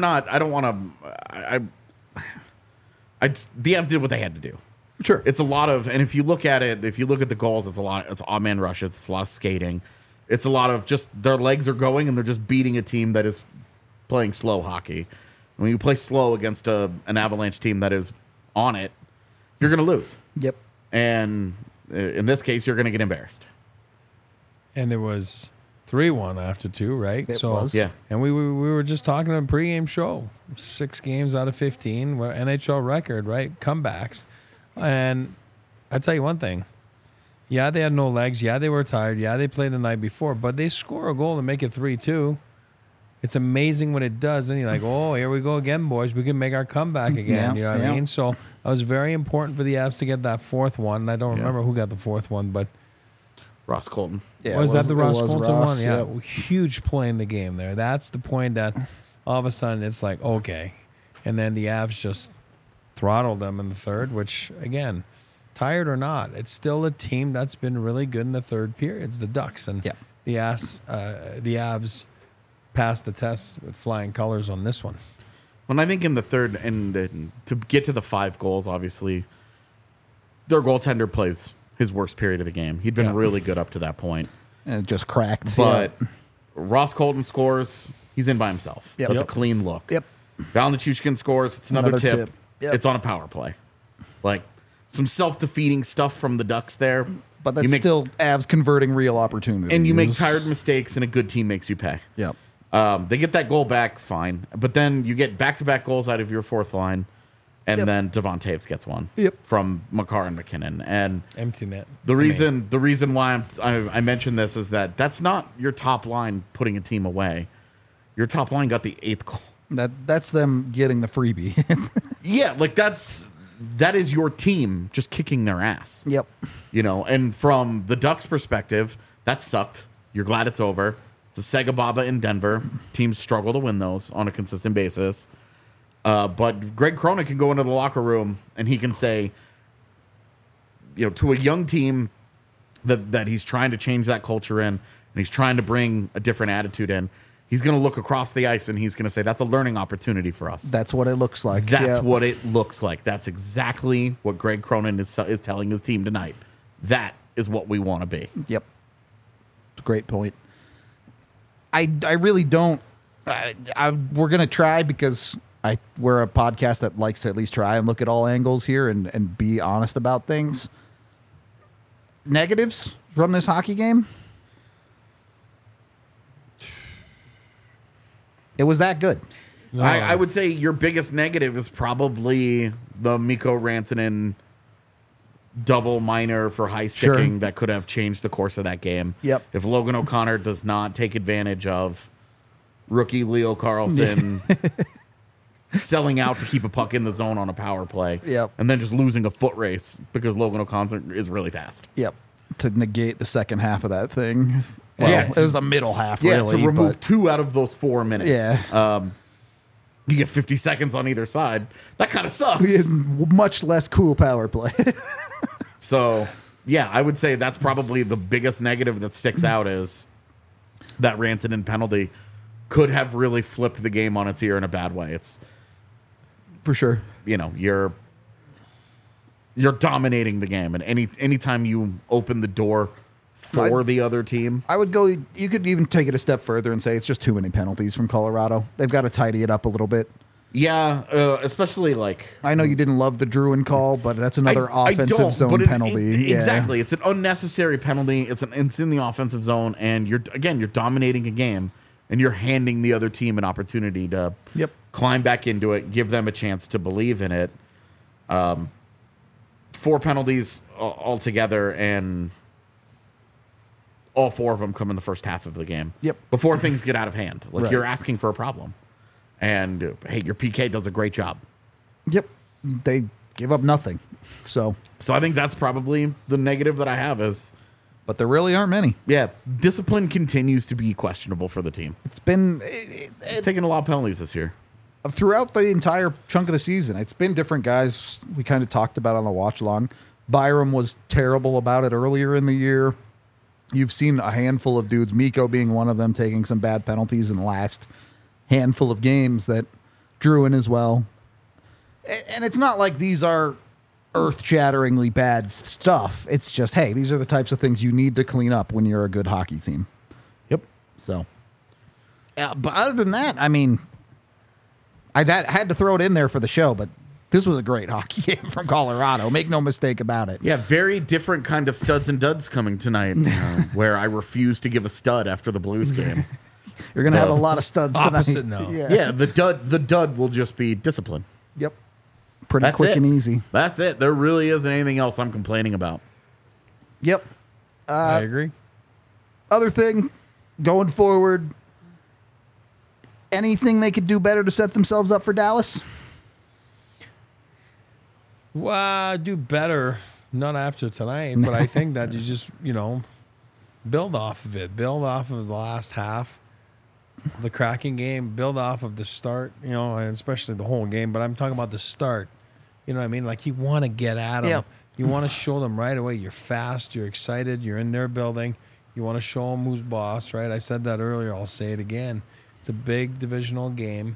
Avs did what they had to do. Sure. It's a lot of, and if you look at the goals, it's odd man rushes, it's a lot of skating. It's a lot of just their legs are going and they're just beating a team that is playing slow hockey. When you play slow against an Avalanche team that is on it, you're going to lose. Yep. And in this case, you're going to get embarrassed. And it was 3-1 after 2, right? It was. Yeah. And we were just talking on a pregame show. 6 games out of 15, NHL record, right? Comebacks. And I'll tell you one thing. Yeah, they had no legs. Yeah, they were tired. Yeah, they played the night before. But they score a goal to make it 3-2. It's amazing when it does. And you're like, oh, here we go again, boys. We can make our comeback again. Yeah, you know what I mean? So it was very important for the Avs to get that 4th one. I don't remember who got the 4th one, but Ross Colton. Yeah, was that the Ross Colton one? Yeah, yep. huge play in the game there. That's the point that all of a sudden it's like, okay. And then the Avs just throttled them in the third, which, again, tired or not, it's still a team that's been really good in the third period. It's the Ducks. And the Avs passed the test with flying colors on this one. Well, I think in the third, and to get to the 5 goals, obviously, their goaltender plays his worst period of the game. He'd been really good up to that point. And it just cracked. But Ross Colton scores, he's in by himself. Yep. So it's a clean look. Yep. Val Nichushkin scores, it's another tip. Yep. It's on a power play. Like, some self-defeating stuff from the Ducks there. But that's still Avs converting real opportunities. And you make tired mistakes, and a good team makes you pay. Yep. They get that goal back, fine. But then you get back-to-back goals out of your 4th line, and then Devon Taves gets one from Makar and McKinnon. And empty net. The reason why I mention this is that that's not your top line putting a team away. Your top line got the 8th goal. That's them getting the freebie. Yeah, like that is your team just kicking their ass. Yep. And from the Ducks' perspective, that sucked. You're glad it's over. It's a Sega Baba in Denver. Teams struggle to win those on a consistent basis. But Greg Cronin can go into the locker room and he can say, to a young team that he's trying to change that culture in, and he's trying to bring a different attitude in, he's going to look across the ice and he's going to say, that's a learning opportunity for us. That's what it looks like. That's what it looks like. That's exactly what Greg Cronin is telling his team tonight. That is what we want to be. Yep. It's a great point. I really don't. We're going to try because we're a podcast that likes to at least try and look at all angles here and be honest about things. Negatives from this hockey game? It was that good. No. I would say your biggest negative is probably the Mikko Rantanen double minor for high sticking that could have changed the course of that game. Yep. If Logan O'Connor does not take advantage of rookie Leo Carlson selling out to keep a puck in the zone on a power play, and then just losing a foot race because Logan O'Connor is really fast. Yep. To negate the second half of that thing. Well, Yeah. it was a middle half, Yeah, really. to remove but 2 out of those 4 minutes. Yeah. You get 50 seconds on either side. That kind of sucks. we had much less cool power play. So, yeah, I would say that's probably the biggest negative that sticks out is that Rantanen penalty could have really flipped the game on its ear in a bad way. It's, For sure. you're dominating the game, and anytime you open the door for the other team, I would go, you could even take it a step further and say it's just too many penalties from Colorado. They've got to tidy it up a little bit. yeah, especially like I know you didn't love the Druin call, but that's another offensive zone penalty. Exactly. It's an unnecessary penalty. It's in the offensive zone, and you're dominating a game, and you're handing the other team an opportunity to climb back into it, give them a chance to believe in it. 4 penalties altogether, and all 4 of them come in the first half of the game. Yep. Before things get out of hand. Like, Right. you're asking for a problem. And, hey, your PK does a great job. Yep. They give up nothing. So I think that's probably the negative that I have is, but there really aren't many. yeah, discipline continues to be questionable for the team. It's been Taking a lot of penalties this year. throughout the entire chunk of the season. It's been different guys we kind of talked about on the watch along. Byram was terrible about it earlier in the year. You've seen a handful of dudes, Mikko being one of them, taking some bad penalties in the last handful of games that drew in as well. And it's not like these are earth-shatteringly bad stuff. It's just, hey, these are the types of things you need to clean up when you're a good hockey team. Yep. So, but other than that, I mean, I had to throw it in there for the show, but this was a great hockey game from Colorado. Make no mistake about it. Yeah, very different kind of studs and duds coming tonight, where I refuse to give a stud after the Blues game. You're going to have a lot of studs Opposite tonight. now. Yeah, the dud will just be discipline. Yep. Pretty That's quick it. and easy. That's it. There really isn't anything else I'm complaining about. Yep. I agree. Other thing, going forward, anything they could do better to set themselves up for Dallas? Well, do better, not after tonight, but I think that you just, build off of it. Build off of the last half, the Kraken game, build off of the start, and especially the whole game, but I'm talking about the start. You know what I mean? Like, you want to get at them. Yep. You want to show them right away you're fast, you're excited, you're in their building. You want to show them who's boss, right? I said that earlier. I'll say it again. It's a big divisional game.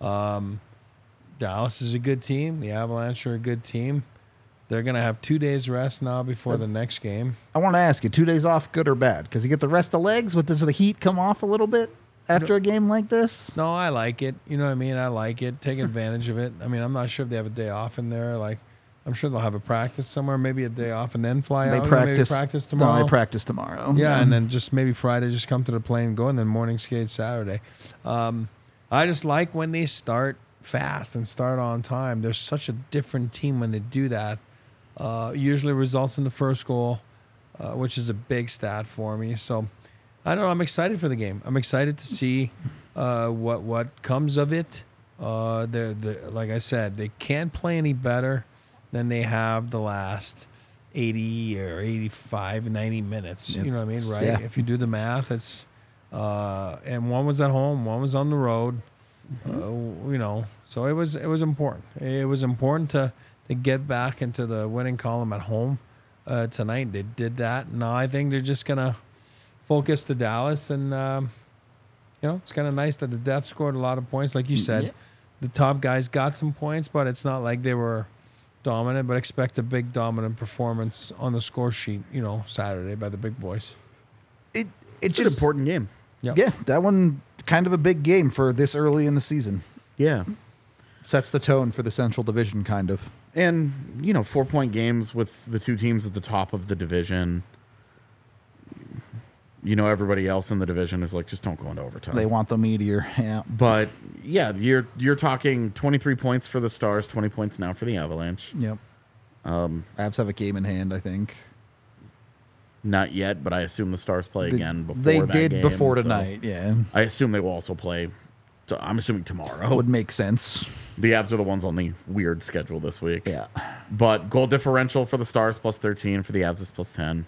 Dallas is a good team. The Avalanche are a good team. They're going to have 2 days rest now before the next game. I want to ask you, 2 days off, good or bad? Because you get the rest of legs, but does the heat come off a little bit after a game like this? No, I like it. You know what I mean? I like it. Take advantage of it. I mean, I'm not sure if they have a day off in there. Like, I'm sure they'll have a practice somewhere, maybe a day off and then fly They out. practice, Maybe practice tomorrow. No, they practice tomorrow. Yeah, and then just maybe Friday, just come to the plane and go, and then morning skate Saturday. I just like when they start fast and start on time. They're such a different team when they do that. Usually results in the first goal, which is a big stat for me. So, I don't know. I'm excited for the game. I'm excited to see what comes of it. They're like I said, they can't play any better than they have the last 80 or 85, 90 minutes. You know what I mean, right? Yeah. If you do the math, it's and one was at home, one was on the road. You know, so it was important. It was important to get back into the winning column at home tonight. They did that. Now I think they're just gonna focus to Dallas, and you know, it's kind of nice that the Def scored a lot of points, like you said. Yeah. The top guys got some points, but it's not like they were dominant. But expect a big dominant performance on the score sheet, you know, Saturday by the big boys. It's It's an just important game. Yep. Yeah, that one kind of a big game for this early in the season. Yeah. Sets the tone for the Central Division, kind of. And, 4-point games with the two teams at the top of the division. Everybody else in the division is like, just don't go into overtime. They want the meteor. Yeah. But, yeah, you're talking 23 points for the Stars, 20 points now for the Avalanche. Yep. Avs have a game in hand, I think. Not yet, but I assume the Stars play again before They that did game, before so tonight, yeah. I assume they will also play. So I'm assuming tomorrow. Would make sense. The Avs are the ones on the weird schedule this week. Yeah. But goal differential for the Stars plus 13, for the Avs is plus 10.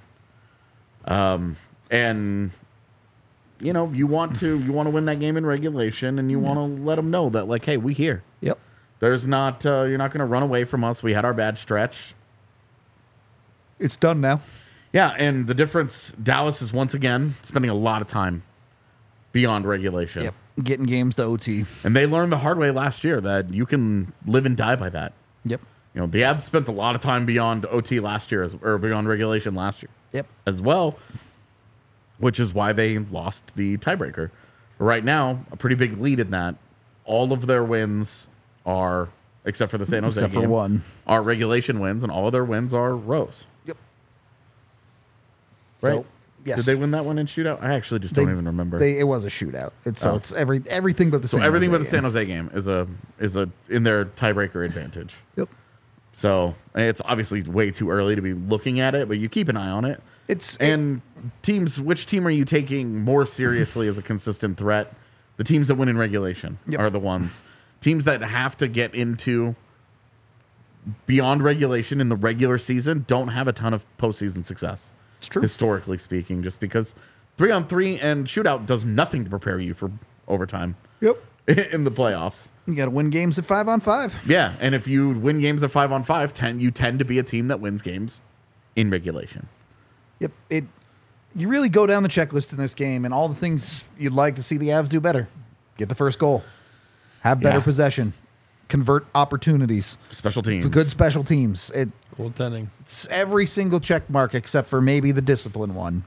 And you want to win that game in regulation, and you want to let them know that, like, hey, we here. Yep. There's not you're not going to run away from us. We had our bad stretch. It's done now. Yeah, and the difference, Dallas is once again spending a lot of time beyond regulation. Yep. Getting games to OT. And they learned the hard way last year that you can live and die by that. Yep. The Avs spent a lot of time beyond OT last year, or beyond regulation last year. Yep. As well, which is why they lost the tiebreaker. Right now, a pretty big lead in that. All of their wins are, except for the San Jose Except game, for one. are regulation wins, and all of their wins are rows. Yep. Right? So, yes. Did they win that one in shootout? I actually just don't even remember. It was a shootout. It's everything but the so San everything Jose but the San Jose game is a in their tiebreaker advantage. Yep. So it's obviously way too early to be looking at it, but you keep an eye on it. Which team are you taking more seriously as a consistent threat? The teams that win in regulation are the ones. Teams that have to get into beyond regulation in the regular season don't have a ton of postseason success. It's true. Historically speaking, just because 3-on-3 and shootout does nothing to prepare you for overtime. Yep. In the playoffs. You got to win games at 5-on-5. Yeah, and if you win games at 5-on-5, you tend to be a team that wins games in regulation. Yep. You really go down the checklist in this game, and all the things you'd like to see the Avs do better. Get the first goal. Have better possession. Convert opportunities. Special teams. Good special teams. Goaltending. It's every single check mark except for maybe the discipline one.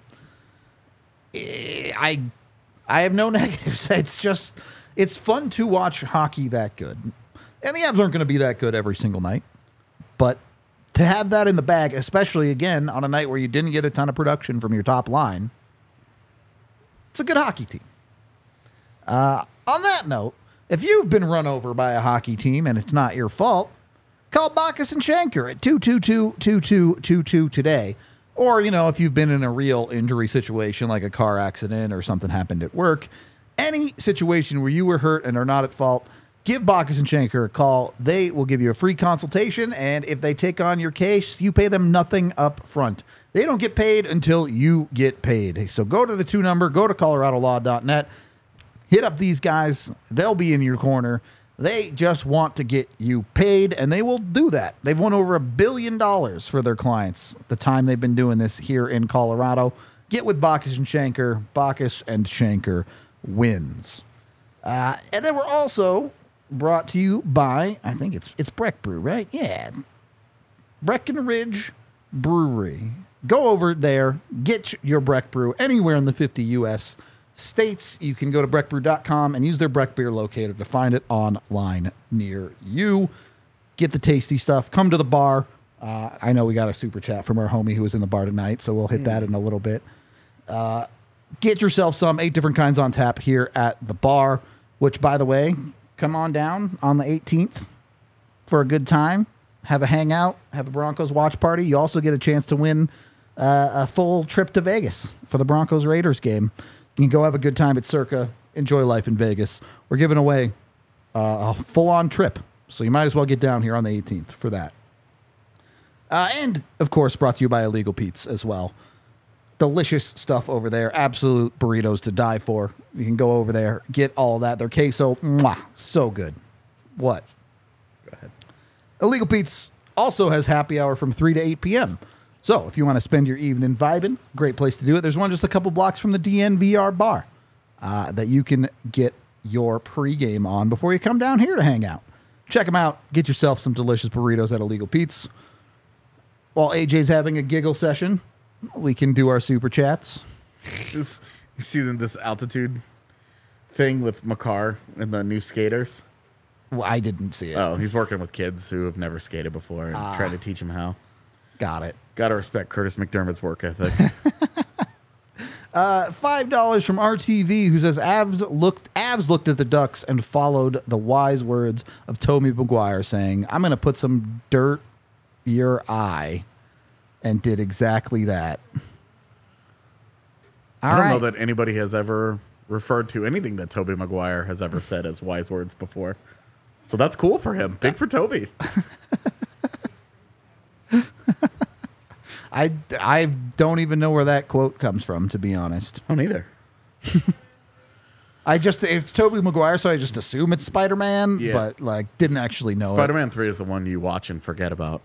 I have no negatives. It's fun to watch hockey that good. And the Avs aren't going to be that good every single night. But to have that in the bag, especially, again, on a night where you didn't get a ton of production from your top line, it's a good hockey team. On that note, if you've been run over by a hockey team and it's not your fault, call Bacchus and Shanker at 222-2222 today. Or, if you've been in a real injury situation like a car accident or something happened at work, any situation where you were hurt and are not at fault, give Bacchus and Shanker a call. They will give you a free consultation, and if they take on your case, you pay them nothing up front. They don't get paid until you get paid. So go to the 2 number, go to coloradolaw.net, hit up these guys. They'll be in your corner. They just want to get you paid, and they will do that. They've won over $1 billion for their clients the time they've been doing this here in Colorado. Get with Bacchus and Shanker. Bacchus and Shanker wins. And then we're also brought to you by, I think it's Breck Brew, right? Yeah. Breckenridge Brewery. Go over there, get your Breck Brew anywhere in the 50 U.S. states. You can go to breckbrew.com and use their Breck Beer locator to find it online near you. Get the tasty stuff. Come to the bar. I know we got a super chat from our homie who was in the bar tonight, so we'll hit that in a little bit. Get yourself some 8 different kinds on tap here at the bar, which, by the way, come on down on the 18th for a good time. Have a hangout, have a Broncos watch party. You also get a chance to win a full trip to Vegas for the Broncos-Raiders game. You can go have a good time at Circa enjoy life in Vegas. We're giving away a full-on trip, so you might as well get down here on the 18th for that. And, of course, brought to you by Illegal Pete's as well. Delicious stuff over there. Absolute burritos to die for. You can go over there, get all that. Their queso, mwah, so good. What? Go ahead. Illegal Pete's also has happy hour from 3 to 8 p.m. So if you want to spend your evening vibing, great place to do it. There's one just a couple blocks from the DNVR bar that you can get your pregame on before you come down here to hang out. Check them out. Get yourself some delicious burritos at Illegal Pete's. While AJ's having a giggle session, we can do our super chats. You see this altitude thing with Makar and the new skaters? Well, I didn't see it. Oh, he's working with kids who have never skated before and trying to teach them how. Got it. Got to respect Curtis McDermott's work ethic. $5 from RTV, who says Avs looked at the Ducks and followed the wise words of Tobey Maguire, saying, "I'm going to put some dirt your eye," and did exactly that. I don't know that anybody has ever referred to anything that Tobey Maguire has ever said as wise words before. So that's cool for him. Big for Toby. I don't even know where that quote comes from, to be honest. I don't either. It's Tobey Maguire, so I just assume it's Spider-Man, Yeah. but didn't actually know Spider-Man 3 is the one you watch and forget about.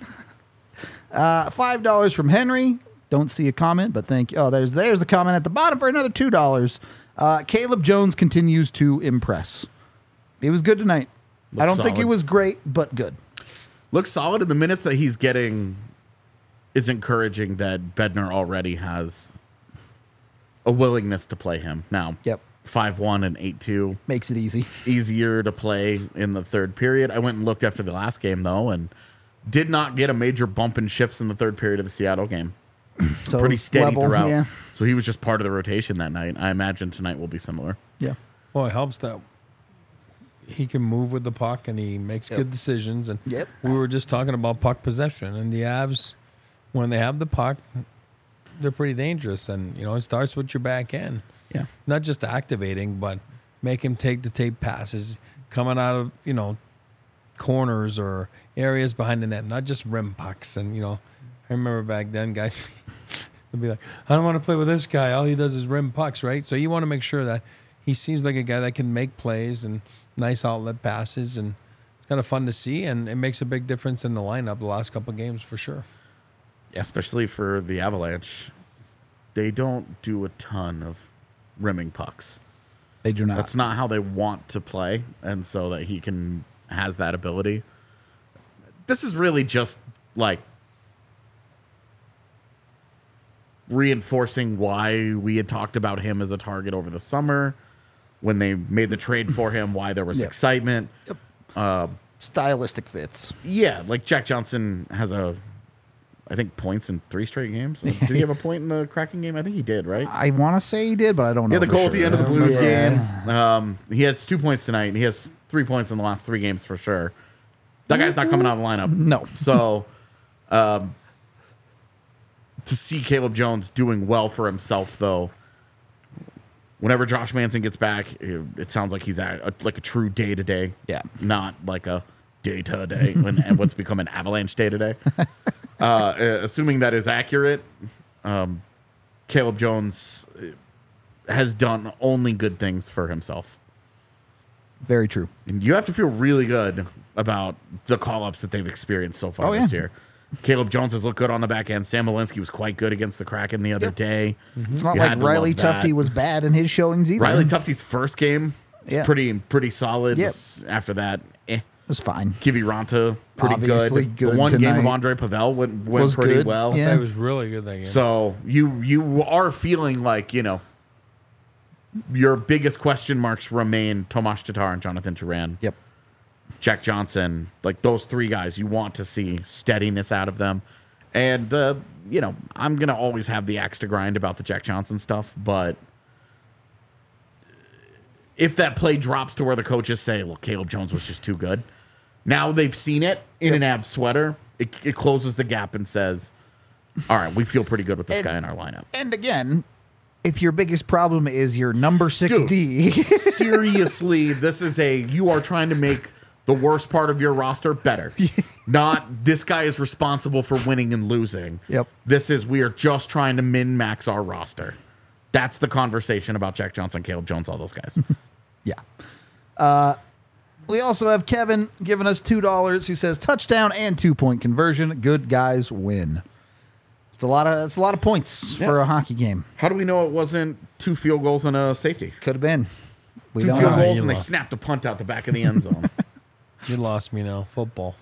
$5 from Henry. Don't see a comment, but thank you. Oh, there's the comment at the bottom for another $2. Caleb Jones continues to impress. He was good tonight. I don't think he solid. was great, but good. Looks solid in the minutes that he's getting. Is encouraging that Bednar already has a willingness to play him now. Yep. 5-1 and 8-2. Makes it easy. Easier to play in the third period. I went and looked after the last game, though, and did not get a major bump in shifts in the third period of the Seattle game. So Pretty steady level, throughout. Yeah. So he was just part of the rotation that night. I imagine tonight will be similar. Yeah. Well, it helps that he can move with the puck and he makes good decisions. And Yep. we were just talking about puck possession, and the Avs, when they have the puck, they're pretty dangerous. And, it starts with your back end. Yeah. Not just activating, but make him take the tape passes coming out of, corners or areas behind the net, not just rim pucks. And, I remember back then, guys would be like, I don't want to play with this guy. All he does is rim pucks, right? So you want to make sure that he seems like a guy that can make plays and nice outlet passes. And it's kind of fun to see. And it makes a big difference in the lineup the last couple of games for sure. Especially for the Avalanche. They don't do a ton of rimming pucks. They do not. That's not how they want to play, and so that he has that ability. This is really just reinforcing why we had talked about him as a target over the summer when they made the trade for him, why there was excitement. Yep. Stylistic fits. Yeah, Jack Johnson has I think points in 3 straight games. Did he have a point in the Kraken game? I think he did, right? I want to say he did, but I don't know. Yeah, the goal at the end of the Blues Yeah. game. He has 2 points tonight, and he has 3 points in the last 3 games for sure. That guy's not coming out of the lineup. No. So, to see Caleb Jones doing well for himself, though, whenever Josh Manson gets back, it sounds like he's at a true day-to-day. Yeah. Not like a day-to-day and what's become an Avalanche day-to-day. Assuming that is accurate, Caleb Jones has done only good things for himself. Very true. And you have to feel really good about the call-ups that they've experienced so far this year. Caleb Jones has looked good on the back end. Sam Malinsky was quite good against the Kraken the other day. It's not You like had to Riley love that. Tufte was bad in his showings either. Riley Tufte's first game was Yeah. pretty solid. Yep. After that, It was fine. Kiviranta, pretty Obviously good. good The one game of tonight. Andre Pavel went Was pretty good. well. Yeah. It was really good that game. So you are feeling like, your biggest question marks remain Tomas Tatar and Jonathan Turan. Yep. Jack Johnson, those 3 guys, you want to see steadiness out of them. And, I'm going to always have the axe to grind about the Jack Johnson stuff, but if that play drops to where the coaches say, well, Caleb Jones was just too good, now they've seen it in an Avs sweater, it closes the gap and says, all right, we feel pretty good with this guy in our lineup. And again, if your biggest problem is your number 6D. Seriously, you are trying to make the worst part of your roster better. Not this guy is responsible for winning and losing. Yep. We are just trying to min-max our roster. That's the conversation about Jack Johnson, Caleb Jones, all those guys. Yeah. We also have Kevin giving us $2 who says touchdown and 2-point conversion. Good guys win. It's a lot of points for a hockey game. How do we know it wasn't 2 field goals and a safety? Could have been. We 2 don't field know. goals and they snapped a punt out the back of the end zone. You lost me now. Football.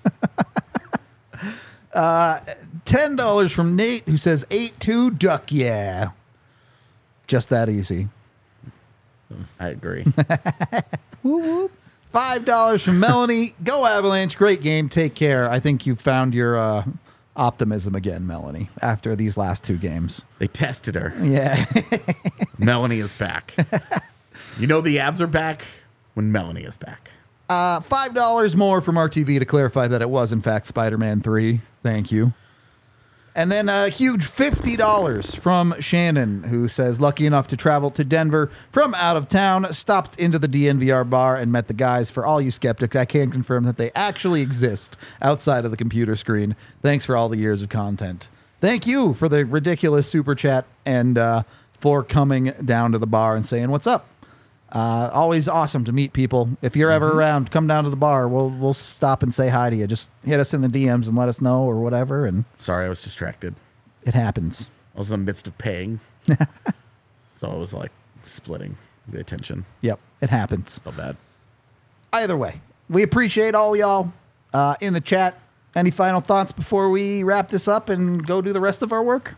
$10 from Nate who says 8-2 duck yeah. Just that easy. I agree. Whoop, whoop. $5 from Melanie. Go Avalanche. Great game. Take care. I think you found your optimism again, Melanie, after these last 2 games. They tested her. Yeah. Melanie is back. You know the Avs are back when Melanie is back. $5 more from RTV to clarify that it was, in fact, Spider-Man 3. Thank you. And then a huge $50 from Shannon, who says, lucky enough to travel to Denver from out of town, stopped into the DNVR bar and met the guys. For all you skeptics, I can confirm that they actually exist outside of the computer screen. Thanks for all the years of content. Thank you for the ridiculous super chat and for coming down to the bar and saying, what's up? Always awesome to meet people. If you're ever around, come down to the bar. We'll stop and say hi to you. Just hit us in the DMs and let us know or whatever. And Sorry, I was distracted. it happens. I was in the midst of paying. So I was like splitting the attention. Yep, it happens. Felt bad. Either way, we appreciate all y'all in the chat. Any final thoughts before we wrap this up and go do the rest of our work?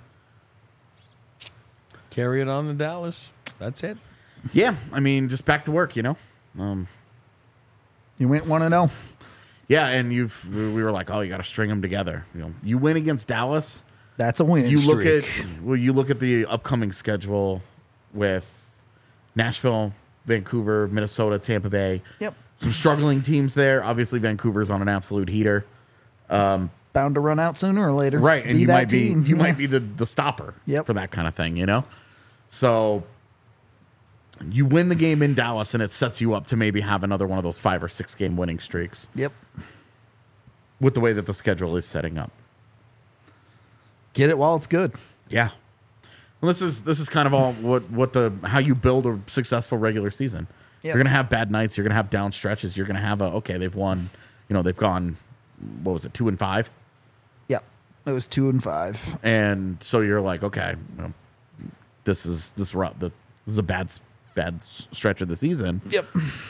Carry it on to Dallas. That's it. Yeah, I mean, just back to work, you know? You went 1-0. Yeah, and we were like, oh, you got to string them together. You know, you win against Dallas. That's a win. You look at the upcoming schedule with Nashville, Vancouver, Minnesota, Tampa Bay. Yep. Some struggling teams there. Obviously, Vancouver's on an absolute heater. Bound to run out sooner or later. Right, and Be you that might team. be might be the stopper Yep. for that kind of thing, you know? So you win the game in Dallas, and it sets you up to maybe have another one of those 5 or 6 game winning streaks Yep. with the way that the schedule is setting up. Get it while it's good. Yeah. Well, this is kind of all how you build a successful regular season. Yep. You're gonna have bad nights. You're gonna have down stretches. You're gonna have they've won. You know, they've gone. What was it? 2-5. Yep. It was 2-5. And so you're like, okay, you know, this is a bad stretch of the season. Yep.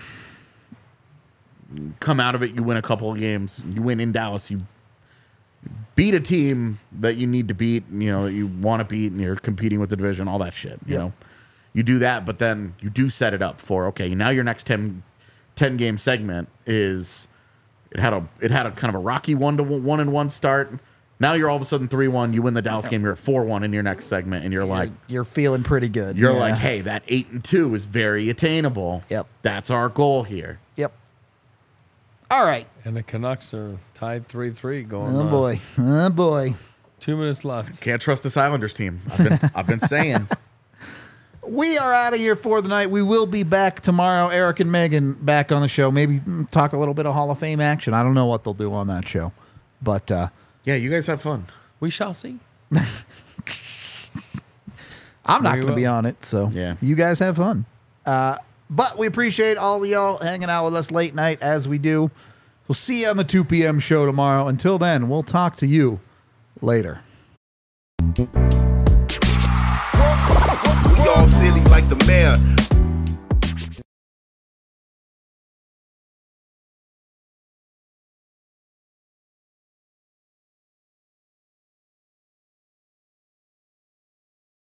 Come out of it, you win a couple of games. You win in Dallas. You beat a team that you need to beat. You know, that you want to beat, and you're competing with the division. All that shit. You Yep. know, you do that, but then you do set it up for okay. Now your next 10 game segment is it had a kind of a rocky 1-1 start. Now you're all of a sudden 3-1. You win the Dallas game. You're at 4-1 in your next segment, and you're like, You're feeling pretty good. you're Yeah. like, hey, that 8-2 is very attainable. Yep. That's our goal here. Yep. All right. And the Canucks are tied 3-3 going Oh, boy. Oh, boy. 2 minutes left. Can't trust this Islanders team. I've been saying. We are out of here for the night. We will be back tomorrow. Eric and Megan back on the show. Maybe talk a little bit of Hall of Fame action. I don't know what they'll do on that show. But Yeah, you guys have fun. We shall see. I'm not We going to be will. on it. So Yeah. you guys have fun. But we appreciate all of y'all hanging out with us late night as we do. We'll see you on the 2 p.m. show tomorrow. Until then, we'll talk to you later. We all silly like the mayor.